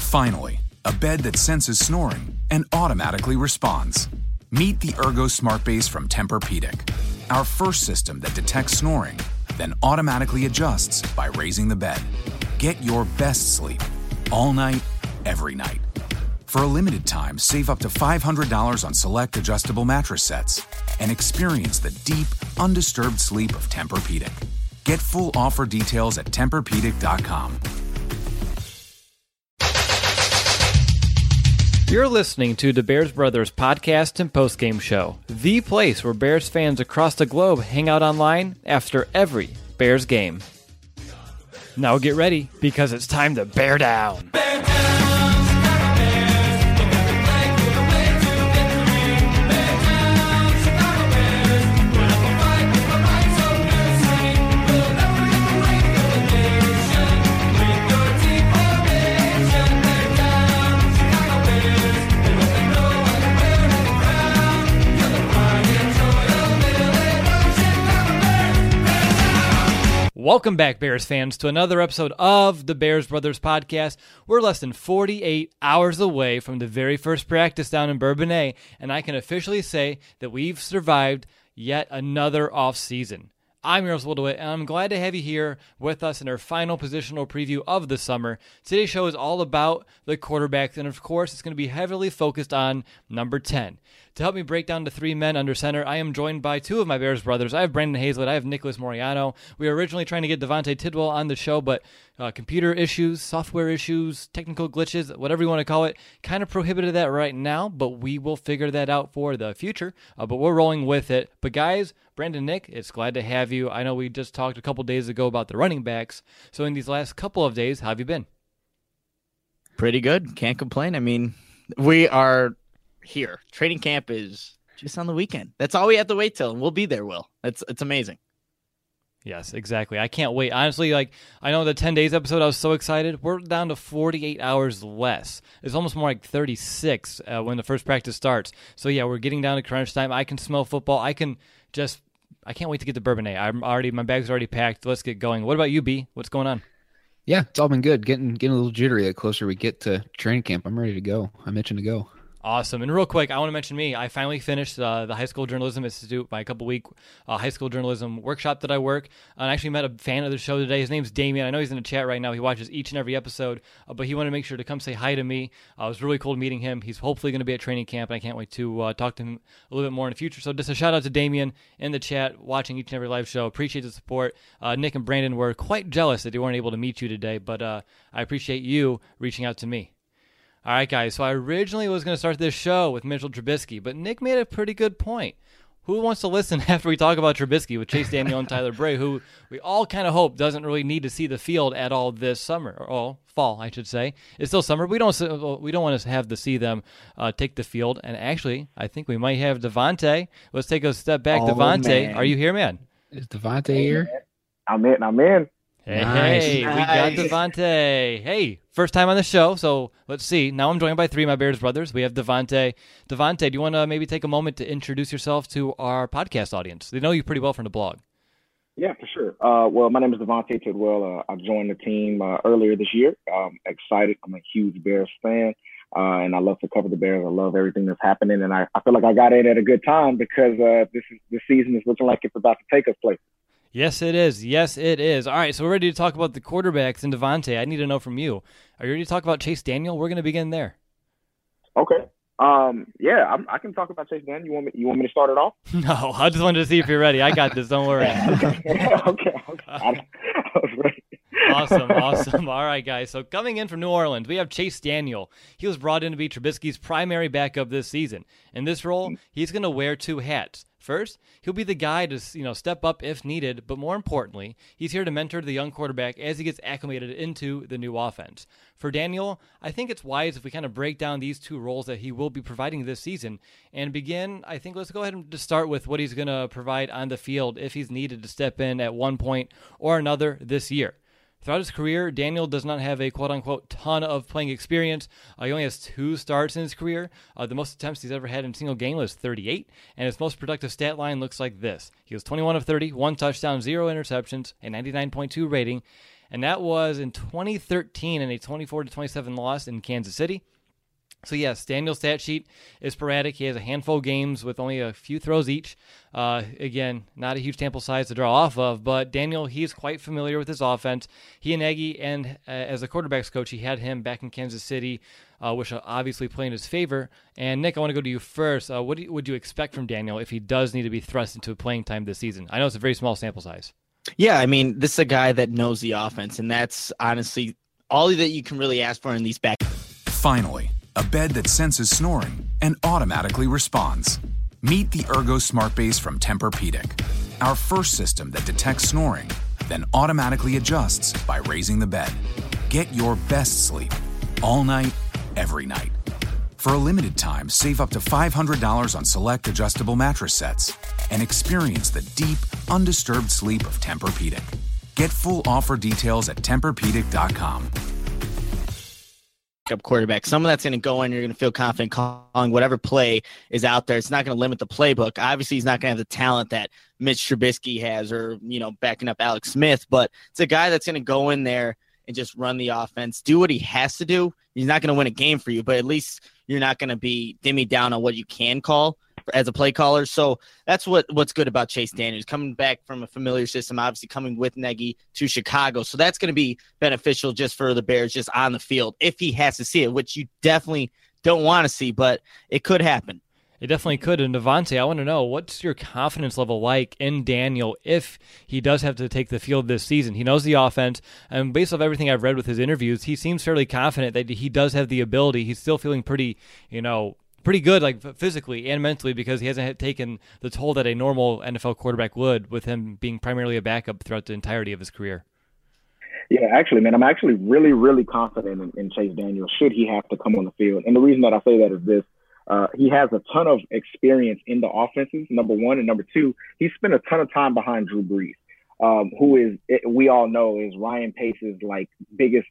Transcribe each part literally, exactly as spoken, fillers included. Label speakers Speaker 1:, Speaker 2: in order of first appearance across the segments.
Speaker 1: Finally, a bed that senses snoring and automatically responds. Meet the Ergo Smart Base from Tempur-Pedic, our first system that detects snoring, then automatically adjusts by raising the bed. Get your best sleep all night, every night. For a limited time, save up to five hundred dollars on select adjustable mattress sets and experience the deep, undisturbed sleep of Tempur-Pedic. Get full offer details at Tempur Pedic dot com.
Speaker 2: You're listening to the Bears Brothers podcast and postgame show, the place where Bears fans across the globe hang out online after every Bears game. Now get ready, because it's time to bear down. Bear down. Welcome back, Bears fans, to another episode of the Bears Brothers podcast. We're less than forty-eight hours away from the very first practice down in Bourbonnais, and I can officially say that we've survived yet another off-season. I'm Earls Woodwit, and I'm glad to have you here with us in our final positional preview of the summer. Today's show is all about the quarterbacks, and of course, it's going to be heavily focused on number ten. To help me break down the three men under center, I am joined by two of my Bears brothers. I have Brandon Hazlett. I have Nicholas Moriano. We were originally trying to get Devontae Tidwell on the show, but uh, computer issues, software issues, technical glitches, whatever you want to call it, kind of prohibited that right now, but we will figure that out for the future. Uh, but we're rolling with it. But guys, Brandon, Nick, it's glad to have you. I know we just talked a couple days ago about the running backs. So in these last couple of days, how have you been?
Speaker 3: Pretty good. Can't complain. I mean, we are here. Training camp is just on the weekend. That's all we have to wait till, and we'll be there, Will. It's it's amazing.
Speaker 2: Yes, exactly. I can't wait. Honestly, like, I know the ten days episode, I was so excited. We're down to forty-eight hours less. It's almost more like thirty-six uh, when the first practice starts. So yeah, we're getting down to crunch time. I can smell football. I can just, I can't wait to get to Bourbonnais. I'm already, my bag's already packed. Let's get going. What about you, B? What's going on?
Speaker 4: Yeah, it's all been good. Getting getting a little jittery the closer we get to training camp. I'm ready to go. I'm itching to go.
Speaker 2: Awesome. And real quick, I want to mention me. I finally finished uh, the High School Journalism Institute, my couple-week uh, high school journalism workshop that I work. And I actually met a fan of the show today. His name's Damien. I know he's in the chat right now. He watches each and every episode, uh, but he wanted to make sure to come say hi to me. Uh, it was really cool meeting him. He's hopefully going to be at training camp, and I can't wait to uh, talk to him a little bit more in the future. So just a shout-out to Damien in the chat, watching each and every live show. Appreciate the support. Uh, Nick and Brandon were quite jealous that they weren't able to meet you today, but uh, I appreciate you reaching out to me. All right, guys, so I originally was going to start this show with Mitchell Trubisky, but Nick made a pretty good point. Who wants to listen after we talk about Trubisky with Chase Daniel and Tyler Bray, who we all kind of hope doesn't really need to see the field at all this summer, or all fall, I should say. It's still summer. We don't we don't want to have to see them uh, take the field, and actually, I think we might have Devontae. Let's take a step back.
Speaker 3: Oh,
Speaker 2: Devontae,
Speaker 3: man.
Speaker 2: are you here, man?
Speaker 4: Is Devontae here?
Speaker 5: I'm in. I'm in.
Speaker 2: Hey,
Speaker 4: Nice.
Speaker 2: hey,
Speaker 3: Nice.
Speaker 2: we got Devontae. Hey, first time on the show, so let's see. Now I'm joined by three of my Bears brothers. We have Devontae. Devontae, do you want to maybe take a moment to introduce yourself to our podcast audience? They know you pretty well from the blog.
Speaker 5: Yeah, for sure. Uh, well, my name is Devontae Tidwell. Uh, I joined the team uh, earlier this year. I'm excited. I'm a huge Bears fan, uh, and I love to cover the Bears. I love everything that's happening, and I, I feel like I got in at a good time because uh, this is this season is looking like it's about to take us places.
Speaker 2: Yes, it is. Yes, it is. All right, so we're ready to talk about the quarterbacks and Devontae. I need to know from you. Are you ready to talk about Chase Daniel? We're going to begin there.
Speaker 5: Okay. Um. Yeah, I'm, I can talk about Chase Daniel. You want me? You want me to start it off?
Speaker 2: No, I just wanted to see if you're ready. I got this. Don't worry.
Speaker 5: okay. Okay. okay. I, I was ready.
Speaker 2: Awesome, awesome. All right, guys. So coming in from New Orleans, we have Chase Daniel. He was brought in to be Trubisky's primary backup this season. In this role, he's going to wear two hats. First, he'll be the guy to, you know, step up if needed, but more importantly, he's here to mentor the young quarterback as he gets acclimated into the new offense. For Daniel, I think it's wise if we kind of break down these two roles that he will be providing this season and begin, I think let's go ahead and just start with what he's going to provide on the field if he's needed to step in at one point or another this year. Throughout his career, Daniel does not have a quote-unquote ton of playing experience. Uh, he only has two starts in his career. Uh, the most attempts he's ever had in a single game was thirty-eight, and his most productive stat line looks like this. He was twenty-one of thirty, one touchdown, zero interceptions, a ninety-nine point two rating. and that was in twenty thirteen in a twenty-four to twenty-seven loss in Kansas City. So yes, Daniel's stat sheet is sporadic. He has a handful of games with only a few throws each. Uh, again, not a huge sample size to draw off of, but Daniel, he's quite familiar with his offense. He and Nagy, and uh, as a quarterbacks coach, he had him back in Kansas City, uh, which will obviously play in his favor. And Nick, I want to go to you first. Uh, what do you, would you expect from Daniel if he does need to be thrust into playing time this season? I know it's a very small sample size.
Speaker 3: Yeah, I mean, this is a guy that knows the offense, and that's honestly all that you can really ask for in these back.
Speaker 1: Finally, a bed that senses snoring and automatically responds. Meet the Ergo Smart Base from Tempur-Pedic, our first system that detects snoring, then automatically adjusts by raising the bed. Get your best sleep all night, every night. For a limited time, save up to five hundred dollars on select adjustable mattress sets and experience the deep, undisturbed sleep of Tempur-Pedic. Get full offer details at Tempur Pedic dot com.
Speaker 3: Up quarterback, someone that's going to go in, you're going to feel confident calling whatever play is out there. It's not going to limit the playbook. Obviously, he's not going to have the talent that Mitch Trubisky has, or, you know, backing up Alex Smith, but it's a guy that's going to go in there and just run the offense, do what he has to do. He's not going to win a game for you, but at least you're not going to be dimmy down on what you can call as a play caller. So that's what what's good about Chase Daniels, coming back from a familiar system, obviously coming with Nagy to Chicago. So that's going to be beneficial just for the Bears, just on the field, if he has to see it, which you definitely don't want to see, but it could happen.
Speaker 2: It definitely could. And Devontae, I want to know, what's your confidence level like in Daniel if he does have to take the field this season? He knows the offense, and based off everything I've read with his interviews, he seems fairly confident that he does have the ability. He's still feeling pretty, you know, pretty good, like physically and mentally, because he hasn't taken the toll that a normal N F L quarterback would, with him being primarily a backup throughout the entirety of his career.
Speaker 5: Yeah, actually, man, I'm actually really, really confident in, in Chase Daniel should he have to come on the field. And the reason that I say that is this. Uh, he has a ton of experience in the offenses, number one. And number two, he spent a ton of time behind Drew Brees, um, who is, we all know, is Ryan Pace's like biggest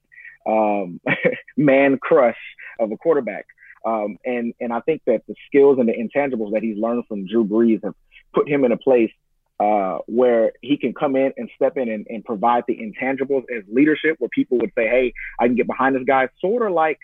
Speaker 5: um, man crush of a quarterback. Um, and, and I think that the skills and the intangibles that he's learned from Drew Brees have put him in a place uh, where he can come in and step in and, and provide the intangibles as leadership, where people would say, hey, I can get behind this guy, sort of like,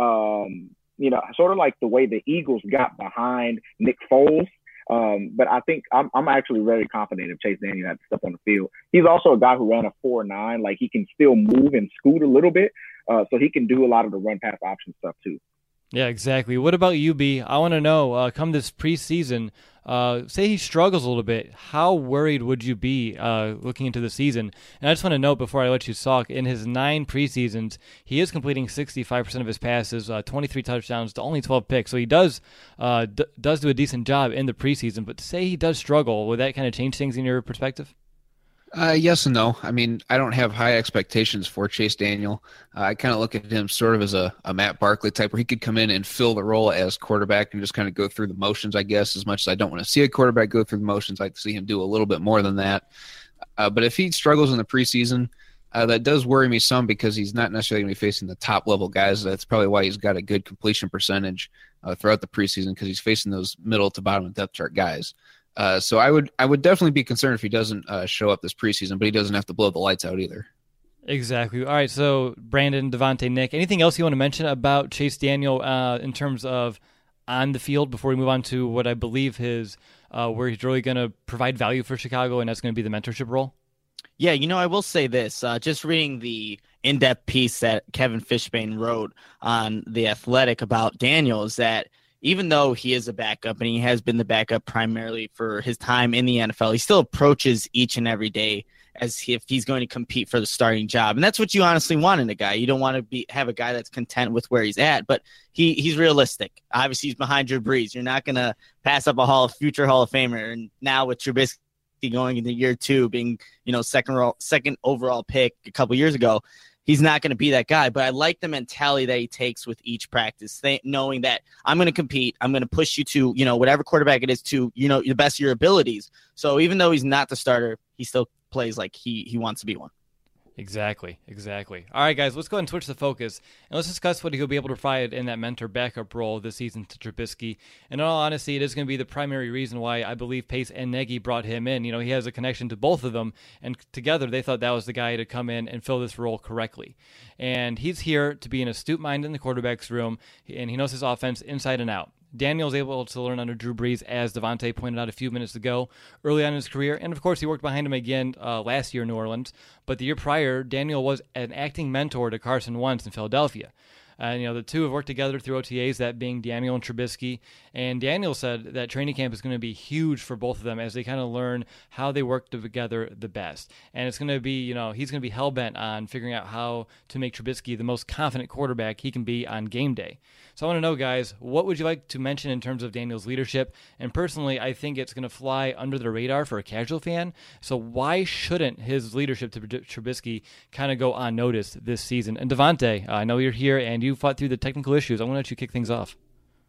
Speaker 5: um, you know, sort of like the way the Eagles got behind Nick Foles. Um, but I think I'm, I'm actually very confident if Chase Daniel had to step on the field. He's also a guy who ran a four nine. Like, he can still move and scoot a little bit. Uh, so he can do a lot of the run pass option stuff too.
Speaker 2: Yeah, exactly. What about you, B? I want to know, uh, come this preseason, uh, say he struggles a little bit, how worried would you be uh, looking into the season? And I just want to note before I let you talk, in his nine preseasons, he is completing sixty-five percent of his passes, uh, twenty-three touchdowns to only twelve picks. So he does uh, d- does do a decent job in the preseason, but say he does struggle, would that kind of change things in your perspective?
Speaker 4: Uh, yes and no. I mean, I don't have high expectations for Chase Daniel. Uh, I kind of look at him sort of as a, a Matt Barkley type, where he could come in and fill the role as quarterback and just kind of go through the motions, I guess. As much as I don't want to see a quarterback go through the motions, I'd like to see him do a little bit more than that. Uh, but if he struggles in the preseason, uh, that does worry me some, because he's not necessarily going to be facing the top-level guys. That's probably why he's got a good completion percentage uh, throughout the preseason, because he's facing those middle to bottom of depth chart guys. Uh, so I would I would definitely be concerned if he doesn't uh, show up this preseason, but he doesn't have to blow the lights out either.
Speaker 2: Exactly. All right, so Brandon, Devontae, Nick, anything else you want to mention about Chase Daniel uh, in terms of on the field before we move on to what I believe his uh, where he's really going to provide value for Chicago, and that's going to be the mentorship role?
Speaker 3: Yeah, you know, I will say this. Uh, just reading the in-depth piece that Kevin Fishbane wrote on The Athletic about Daniel is that even though he is a backup and he has been the backup primarily for his time in the N F L, he still approaches each and every day as if he's going to compete for the starting job. And that's what you honestly want in a guy. You don't want to be have a guy that's content with where he's at, but he he's realistic. Obviously, he's behind Drew Brees. You're not going to pass up a Hall of future Hall of Famer. And now with Trubisky going into year two, being, you know, second second overall pick a couple years ago, he's not going to be that guy. But I like the mentality that he takes with each practice, th- knowing that I'm going to compete. I'm going to push you to, you know, whatever quarterback it is to, you know, the best of your abilities. So even though he's not the starter, he still plays like he, he wants to be one.
Speaker 2: Exactly, exactly. All right, guys, let's go ahead and switch the focus, and let's discuss what he'll be able to provide in that mentor backup role this season to Trubisky. And in all honesty, it is going to be the primary reason why I believe Pace and Nagy brought him in. You know, he has a connection to both of them, and together they thought that was the guy to come in and fill this role correctly. And he's here to be an astute mind in the quarterback's room, and he knows his offense inside and out. Daniel's able to learn under Drew Brees, as Devontae pointed out a few minutes ago, early on in his career. And, of course, he worked behind him again uh, last year in New Orleans. But the year prior, Daniel was an acting mentor to Carson Wentz in Philadelphia. And, you know, the two have worked together through O T As, that being Daniel and Trubisky. And Daniel said that training camp is going to be huge for both of them as they kind of learn how they work together the best. And it's going to be, you know, he's going to be hell-bent on figuring out how to make Trubisky the most confident quarterback he can be on game day. So I want to know, guys, what would you like to mention in terms of Daniel's leadership? And personally, I think it's going to fly under the radar for a casual fan. So why shouldn't his leadership to Trubisky kind of go unnoticed this season? And Devontae, I know you're here and you fought through the technical issues. I want to let you kick things off.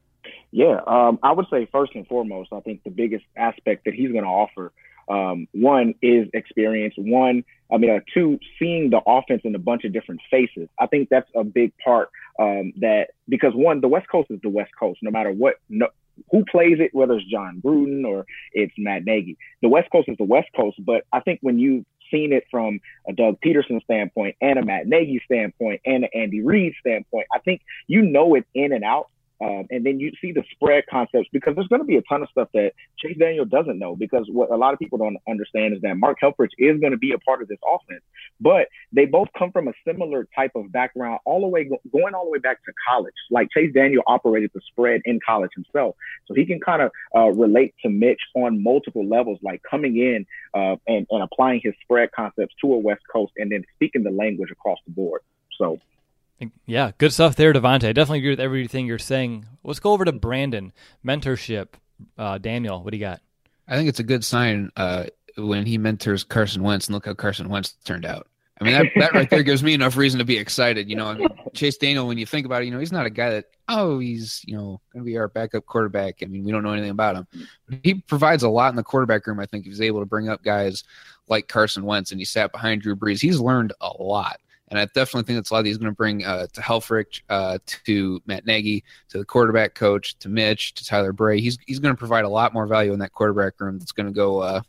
Speaker 5: Yeah, um, I would say first and foremost, I think the biggest aspect that he's going to offer, um, one is experience. One, I mean, uh, two, seeing the offense in a bunch of different faces. I think that's a big part um, that because one, the West Coast is the West Coast, no matter what, no, who plays it, whether it's John Gruden or it's Matt Nagy. The West Coast is the West Coast, but I think when you seen it from a Doug Peterson standpoint and a Matt Nagy standpoint and an Andy Reid standpoint, I think you know it in and out. Um, and then you see the spread concepts, because there's going to be a ton of stuff that Chase Daniel doesn't know, because what a lot of people don't understand is that Mark Helfrich is going to be a part of this offense, but they both come from a similar type of background, all the way going all the way back to college. Like Chase Daniel operated the spread in college himself, so he can kind of uh, relate to Mitch on multiple levels, like coming in uh, and, and applying his spread concepts to a West Coast and then speaking the language across the board. So.
Speaker 2: Yeah, good stuff there, Devontae. I definitely agree with everything you're saying. Let's go over to Brandon. Mentorship. Uh, Daniel, what do you got?
Speaker 4: I think it's a good sign uh, when he mentors Carson Wentz, and look how Carson Wentz turned out. I mean, that, that right there gives me enough reason to be excited. You know, I mean, Chase Daniel, when you think about it, you know, he's not a guy that, oh, he's, you know, going to be our backup quarterback. I mean, we don't know anything about him. He provides a lot in the quarterback room. I think he was able to bring up guys like Carson Wentz, and he sat behind Drew Brees. He's learned a lot. And I definitely think that's a lot he's going to bring uh, to Helfrich, uh, to Matt Nagy, to the quarterback coach, to Mitch, to Tyler Bray. He's he's going to provide a lot more value in that quarterback room that's going to go uh,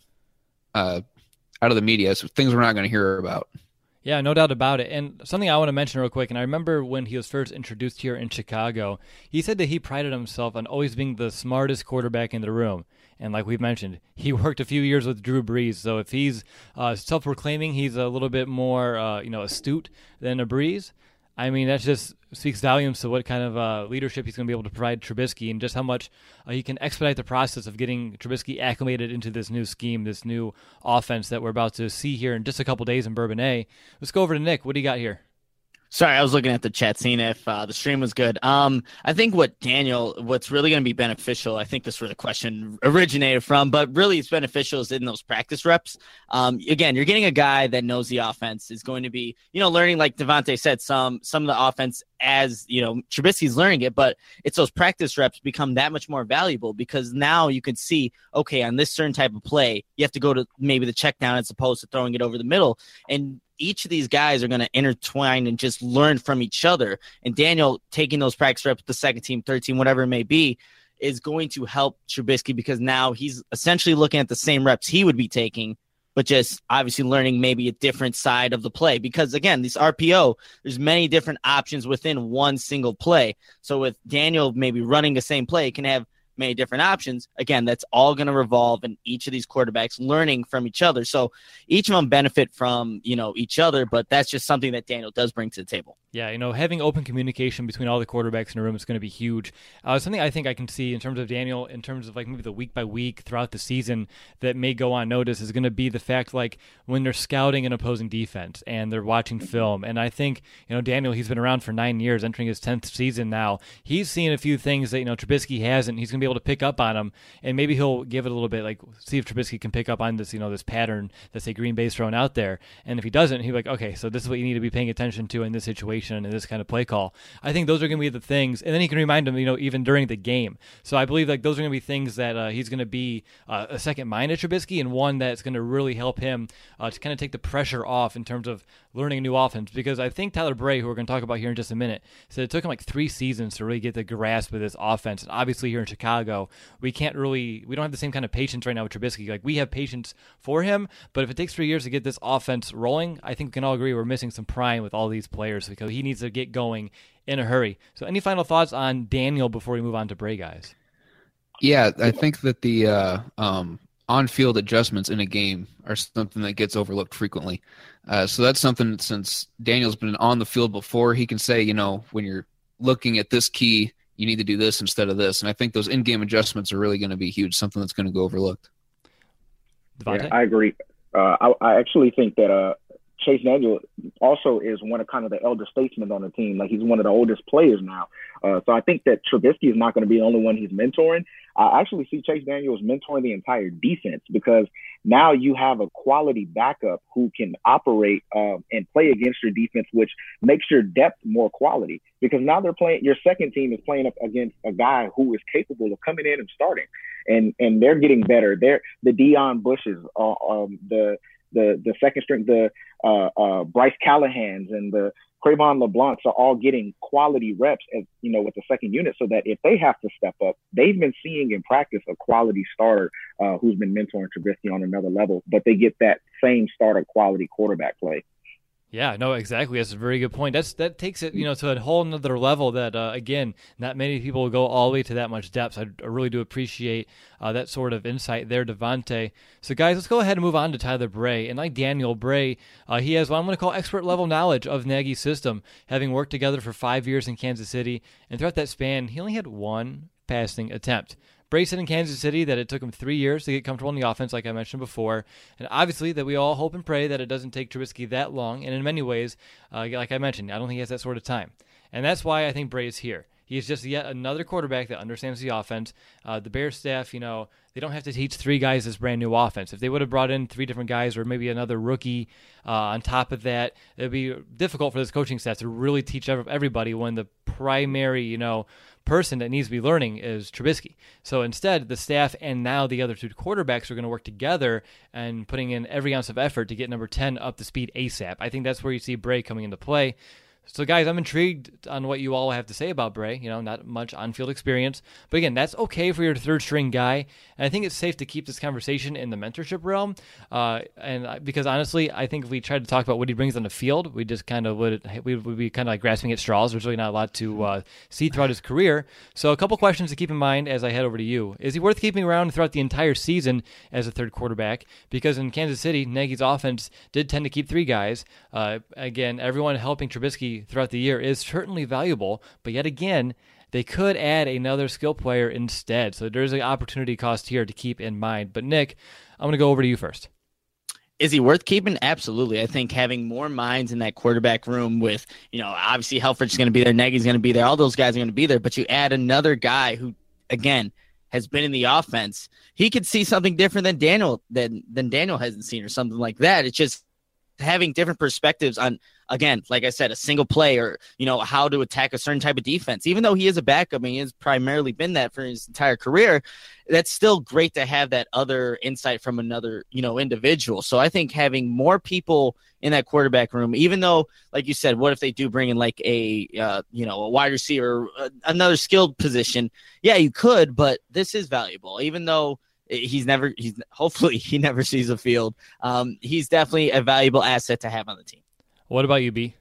Speaker 4: uh, out of the media, so things we're not going to hear about.
Speaker 2: Yeah, no doubt about it. And something I want to mention real quick, and I remember when he was first introduced here in Chicago, he said that he prided himself on always being the smartest quarterback in the room. And like we've mentioned, he worked a few years with Drew Brees. So if he's uh, self-proclaiming he's a little bit more uh, you know, astute than a Brees, I mean, that just speaks volumes to what kind of uh, leadership he's going to be able to provide Trubisky, and just how much uh, he can expedite the process of getting Trubisky acclimated into this new scheme, this new offense that we're about to see here in just a couple days in Bourbonnais. Let's go over to Nick. What do you got here?
Speaker 3: Sorry, I was looking at the chat, seeing if uh, the stream was good. Um, I think what Daniel, what's really going to be beneficial, I think this is where the question originated from, but really it's beneficial is in those practice reps. Um, again, you're getting a guy that knows the offense, is going to be, you know, learning, like Devontae said, some some of the offense as, you know, Trubisky's learning it, but it's those practice reps become that much more valuable, because now you can see, okay, on this certain type of play, you have to go to maybe the check down as opposed to throwing it over the middle. And each of these guys are going to intertwine and just learn from each other. And Daniel taking those practice reps, the second team, third team, whatever it may be, is going to help Trubisky, because now he's essentially looking at the same reps he would be taking, but just obviously learning maybe a different side of the play. Because again, this R P O, there's many different options within one single play. So with Daniel maybe running the same play, it can have many different options. Again, that's all going to revolve in each of these quarterbacks learning from each other. So each of them benefit from, you know, each other, but that's just something that Daniel does bring to the table.
Speaker 2: Yeah, you know, having open communication between all the quarterbacks in the room is going to be huge. Uh, something I think I can see in terms of Daniel, in terms of like maybe the week by week throughout the season that may go unnoticed, is going to be the fact like when they're scouting an opposing defense and they're watching film. And I think, you know, Daniel, he's been around for nine years, entering his tenth season now. He's seen a few things that, you know, Trubisky hasn't. He's going to be able to pick up on them, and maybe he'll give it a little bit, like see if Trubisky can pick up on this, you know, this pattern that say Green Bay's throwing out there. And if he doesn't, he'll be like, okay, so this is what you need to be paying attention to in this situation and this kind of play call. I think those are going to be the things, and then he can remind him, you know, even during the game. So I believe like those are going to be things that uh, he's going to be uh, a second mind at Trubisky, and one that's going to really help him uh, to kind of take the pressure off in terms of learning a new offense. Because I think Tyler Bray, who we're going to talk about here in just a minute, said it took him like three seasons to really get the grasp of this offense. And obviously here in Chicago, we can't really, we don't have the same kind of patience right now with Trubisky. Like we have patience for him, but if it takes three years to get this offense rolling, I think we can all agree we're missing some prime with all these players because he needs to get going in a hurry. So any final thoughts on Daniel before we move on to Bray, guys?
Speaker 4: Yeah, I think that the uh, um, on-field adjustments in a game are something that gets overlooked frequently. Uh, so that's something that since Daniel's been on the field before, he can say, you know, when you're looking at this key, you need to do this instead of this. And I think those in-game adjustments are really going to be huge, something that's going to go overlooked.
Speaker 5: Yeah, I agree. Uh, I, I actually think that uh, Chase Daniel also is one of kind of the elder statesmen on the team. Like he's one of the oldest players now. Uh, so I think that Trubisky is not going to be the only one he's mentoring. I actually see Chase Daniels mentoring the entire defense because now you have a quality backup who can operate uh, and play against your defense, which makes your depth more quality because now they're playing, your second team is playing up against a guy who is capable of coming in and starting, and and they're getting better. They're the Deion Bushes, uh, um, the the the second string, the uh, uh, Bryce Callahans and the Crayvon LeBlancs are all getting quality reps, as, you know, with the second unit, so that if they have to step up, they've been seeing in practice a quality starter uh, who's been mentoring Trubisky on another level, but they get that same starter quality quarterback play.
Speaker 2: Yeah, no, exactly. That's a very good point. That's that takes it, you know, to a whole nother level that, uh, again, not many people will go all the way to that much depth. I, I really do appreciate uh, that sort of insight there, Devontae. So, guys, let's go ahead and move on to Tyler Bray. And like Daniel Bray, uh, he has what I'm going to call expert-level knowledge of Nagy's system, having worked together for five years in Kansas City. And throughout that span, he only had one passing attempt. Bray said in Kansas City that it took him three years to get comfortable in the offense, like I mentioned before. And obviously that we all hope and pray that it doesn't take Trubisky that long. And in many ways, uh, like I mentioned, I don't think he has that sort of time. And that's why I think Bray is here. He is just yet another quarterback that understands the offense. Uh, the Bears staff, you know, they don't have to teach three guys this brand new offense. If they would have brought in three different guys or maybe another rookie uh, on top of that, it would be difficult for this coaching staff to really teach everybody when the primary, you know, person that needs to be learning is Trubisky. So instead, the staff and now the other two quarterbacks are going to work together and putting in every ounce of effort to get number ten up to speed ASAP. I think that's where you see Bray coming into play. So, guys, I'm intrigued on what you all have to say about Bray. You know, not much on-field experience. But, again, that's okay for your third-string guy. And I think it's safe to keep this conversation in the mentorship realm. Uh, and because, honestly, I think if we tried to talk about what he brings on the field, we just kind of would we would be kind of like grasping at straws. There's really not a lot to uh, see throughout his career. So a couple questions to keep in mind as I head over to you. Is he worth keeping around throughout the entire season as a third quarterback? Because in Kansas City, Nagy's offense did tend to keep three guys. Uh, again, everyone helping Trubisky throughout the year is certainly valuable, but yet again, they could add another skill player instead. So there's an opportunity cost here to keep in mind. But Nick, I'm going to go over to you first.
Speaker 3: Is he worth keeping? Absolutely. I think having more minds in that quarterback room with, you know, obviously Helfrich's going to be there, Nagy's going to be there, all those guys are going to be there, but you add another guy who, again, has been in the offense. He could see something different than Daniel than than Daniel hasn't seen or something like that. It's just having different perspectives on, again, like I said, a single play or, you know, how to attack a certain type of defense. Even though he is a backup and he has primarily been that for his entire career, that's still great to have that other insight from another, you know, individual. So I think having more people in that quarterback room, even though, like you said, what if they do bring in like a, uh, you know, a wide receiver, uh, another skilled position? Yeah, you could, but this is valuable, even though He's never, he's hopefully he never sees a field. Um, he's definitely a valuable asset to have on the team.
Speaker 2: What about you, B?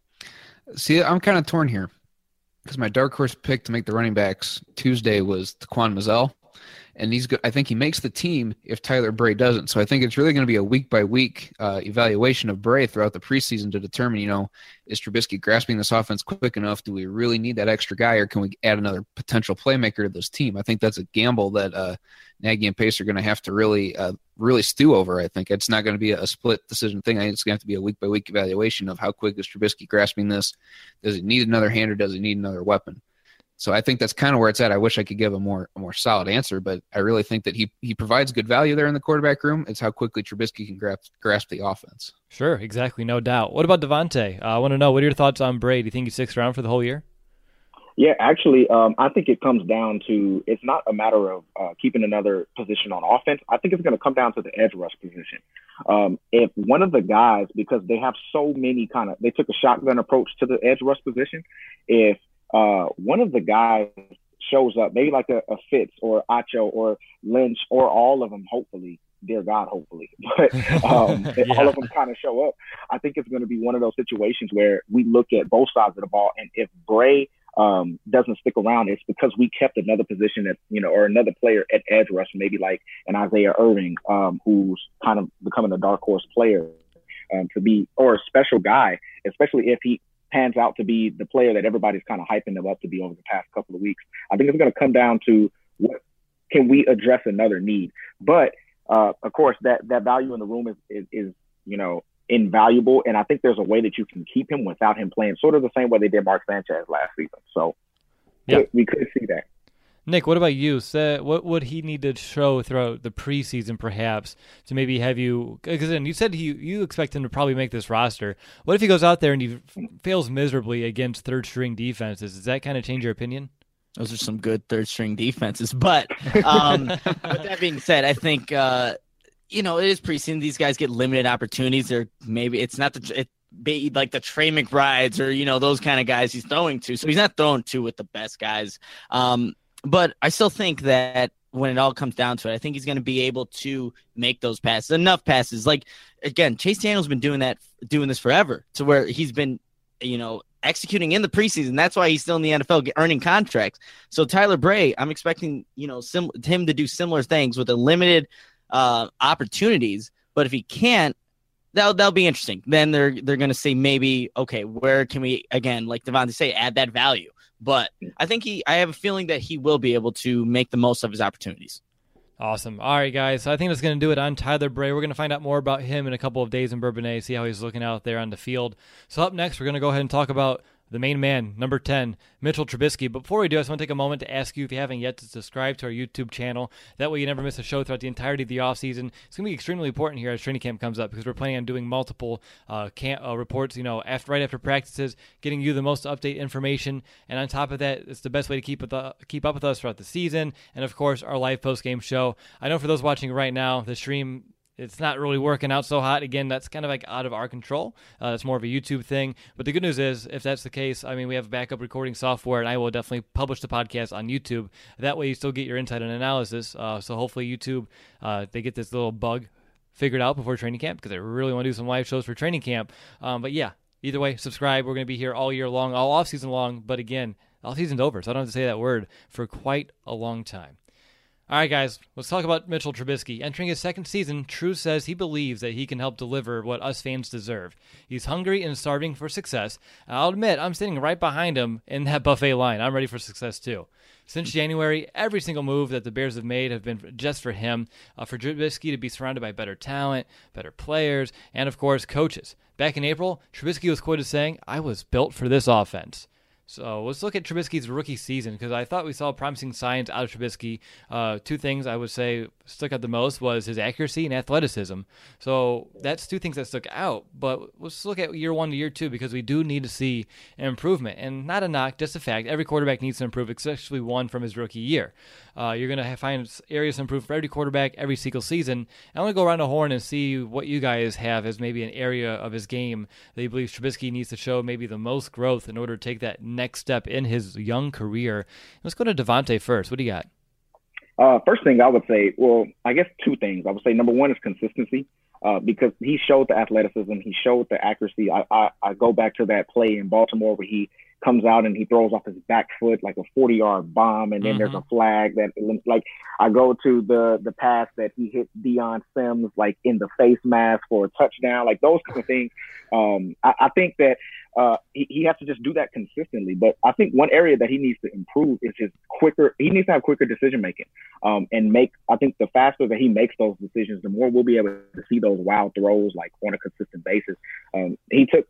Speaker 4: See, I'm kind of torn here because my dark horse pick to make the running backs Tuesday was Taquan Mizzell, and he's good. I think he makes the team if Tyler Bray doesn't. So I think it's really going to be a week by week uh, evaluation of Bray throughout the preseason to determine, you know, is Trubisky grasping this offense quick enough? Do we really need that extra guy, or can we add another potential playmaker to this team? I think that's a gamble that uh, Nagy and Pace are going to have to really, uh, really stew over. I think it's not going to be a split decision thing. I think it's going to have to be a week by week evaluation of how quick is Trubisky grasping this. Does he need another hand or does he need another weapon? So I think that's kind of where it's at. I wish I could give a more a more solid answer, but I really think that he he provides good value there in the quarterback room. It's how quickly Trubisky can grasp grasp the offense.
Speaker 2: Sure, exactly, no doubt. What about Devontae? Uh, I want to know, what are your thoughts on Bray? Do you think he sticks around for the whole year?
Speaker 5: Yeah, actually, um, I think it comes down to, it's not a matter of uh, keeping another position on offense. I think it's going to come down to the edge rush position. Um, if one of the guys, because they have so many kind of, they took a shotgun approach to the edge rush position. If uh, one of the guys shows up, maybe like a, a Fitz or Acho or Lynch or all of them, hopefully, dear God, hopefully, but um, if
Speaker 2: yeah.
Speaker 5: all of them kind of show up, I think it's going to be one of those situations where we look at both sides of the ball. And if Bray um, doesn't stick around, it's because we kept another position at, you know, or another player at edge rush, maybe like an Isaiah Irving, um, who's kind of becoming a dark horse player um, to be, or a special guy, especially if he pans out to be the player that everybody's kind of hyping him up to be over the past couple of weeks. I think it's going to come down to what can we address another need, but uh, of course that, that value in the room is, is, is, you know, invaluable. And I think there's a way that you can keep him without him playing sort of the same way they did Mark Sanchez last season. So yeah, we could see that.
Speaker 2: Nick, what about you? So what would he need to show throughout the preseason, perhaps, to maybe have you? Because then you said he, you expect him to probably make this roster. What if he goes out there and he fails miserably against third-string defenses? Does that kind of change your opinion?
Speaker 3: Those are some good third-string defenses. But um, with that being said, I think uh, you know, it is preseason. These guys get limited opportunities. They're maybe it's not the it, be like the Trey McBrides or, you know, those kind of guys he's throwing to. So he's not throwing to with the best guys. Um, but I still think that when it all comes down to it, I think he's going to be able to make those passes, enough passes. Like, again, Chase Daniel's been doing that, doing this forever, to where he's been, you know, executing in the preseason. That's why he's still in the N F L earning contracts. So Tyler Bray, I'm expecting, you know, sim- him to do similar things with a limited uh, opportunities. But if he can't, that'll, that'll be interesting. Then they're they're going to say maybe, okay, where can we, again, like Devontae say, add that value. But I think he, I have a feeling that he will be able to make the most of his opportunities.
Speaker 2: Awesome. All right, guys. So I think that's going to do it on Tyler Bray. We're going to find out more about him in a couple of days in Bourbonnais, see how he's looking out there on the field. So up next, we're going to go ahead and talk about the main man, number ten, Mitchell Trubisky. But before we do, I just want to take a moment to ask you if you haven't yet to subscribe to our YouTube channel. That way you never miss a show throughout the entirety of the offseason. It's going to be extremely important here as training camp comes up because we're planning on doing multiple uh, camp, uh, reports, you know, after, right after practices, getting you the most up-to-date information. And on top of that, it's the best way to keep with the, keep up with us throughout the season. And, of course, our live post-game show. I know for those watching right now, the stream, it's not really working out so hot. Again, that's kind of like out of our control. Uh, it's more of a YouTube thing. But the good news is, if that's the case, I mean, we have backup recording software, and I will definitely publish the podcast on YouTube. That way you still get your insight and analysis. Uh, so hopefully YouTube, uh, they get this little bug figured out before training camp because I really want to do some live shows for training camp. Um, but yeah, either way, subscribe. We're going to be here all year long, all off-season long. But again, off-season's over, so I don't have to say that word for quite a long time. All right, guys, let's talk about Mitchell Trubisky. Entering his second season, True says he believes that he can help deliver what us fans deserve. He's hungry and starving for success. I'll admit, I'm sitting right behind him in that buffet line. I'm ready for success, too. Since January, every single move that the Bears have made have been just for him, uh, for Trubisky to be surrounded by better talent, better players, and, of course, coaches. Back in April, Trubisky was quoted saying, "I was built for this offense." So let's look at Trubisky's rookie season because I thought we saw promising signs out of Trubisky. Uh, two things I would say stuck out the most was his accuracy and athleticism. So that's two things that stuck out. But let's look at year one to year two because we do need to see an improvement. And not a knock, just a fact. Every quarterback needs to improve, especially one from his rookie year. Uh, you're going to find areas to improve for every quarterback every single season. I want to go around the horn and see what you guys have as maybe an area of his game that you believe Trubisky needs to show maybe the most growth in order to take that next step in his young career. Let's go to Devontae first. What do you got?
Speaker 5: Uh, first thing I would say, well, I guess two things. I would say number one is consistency uh, because he showed the athleticism. He showed the accuracy. I, I, I go back to that play in Baltimore where he comes out and he throws off his back foot like a forty-yard bomb, and then mm-hmm. there's a flag that, like, I go to the the pass that he hit Deion Sims, like, in the face mask for a touchdown, like those kind of things. Um, I, I think that uh, he, he has to just do that consistently. But I think one area that he needs to improve is his quicker – he needs to have quicker decision-making um, and make – I think the faster that he makes those decisions, the more we'll be able to see those wild throws, like, on a consistent basis. Um, he took –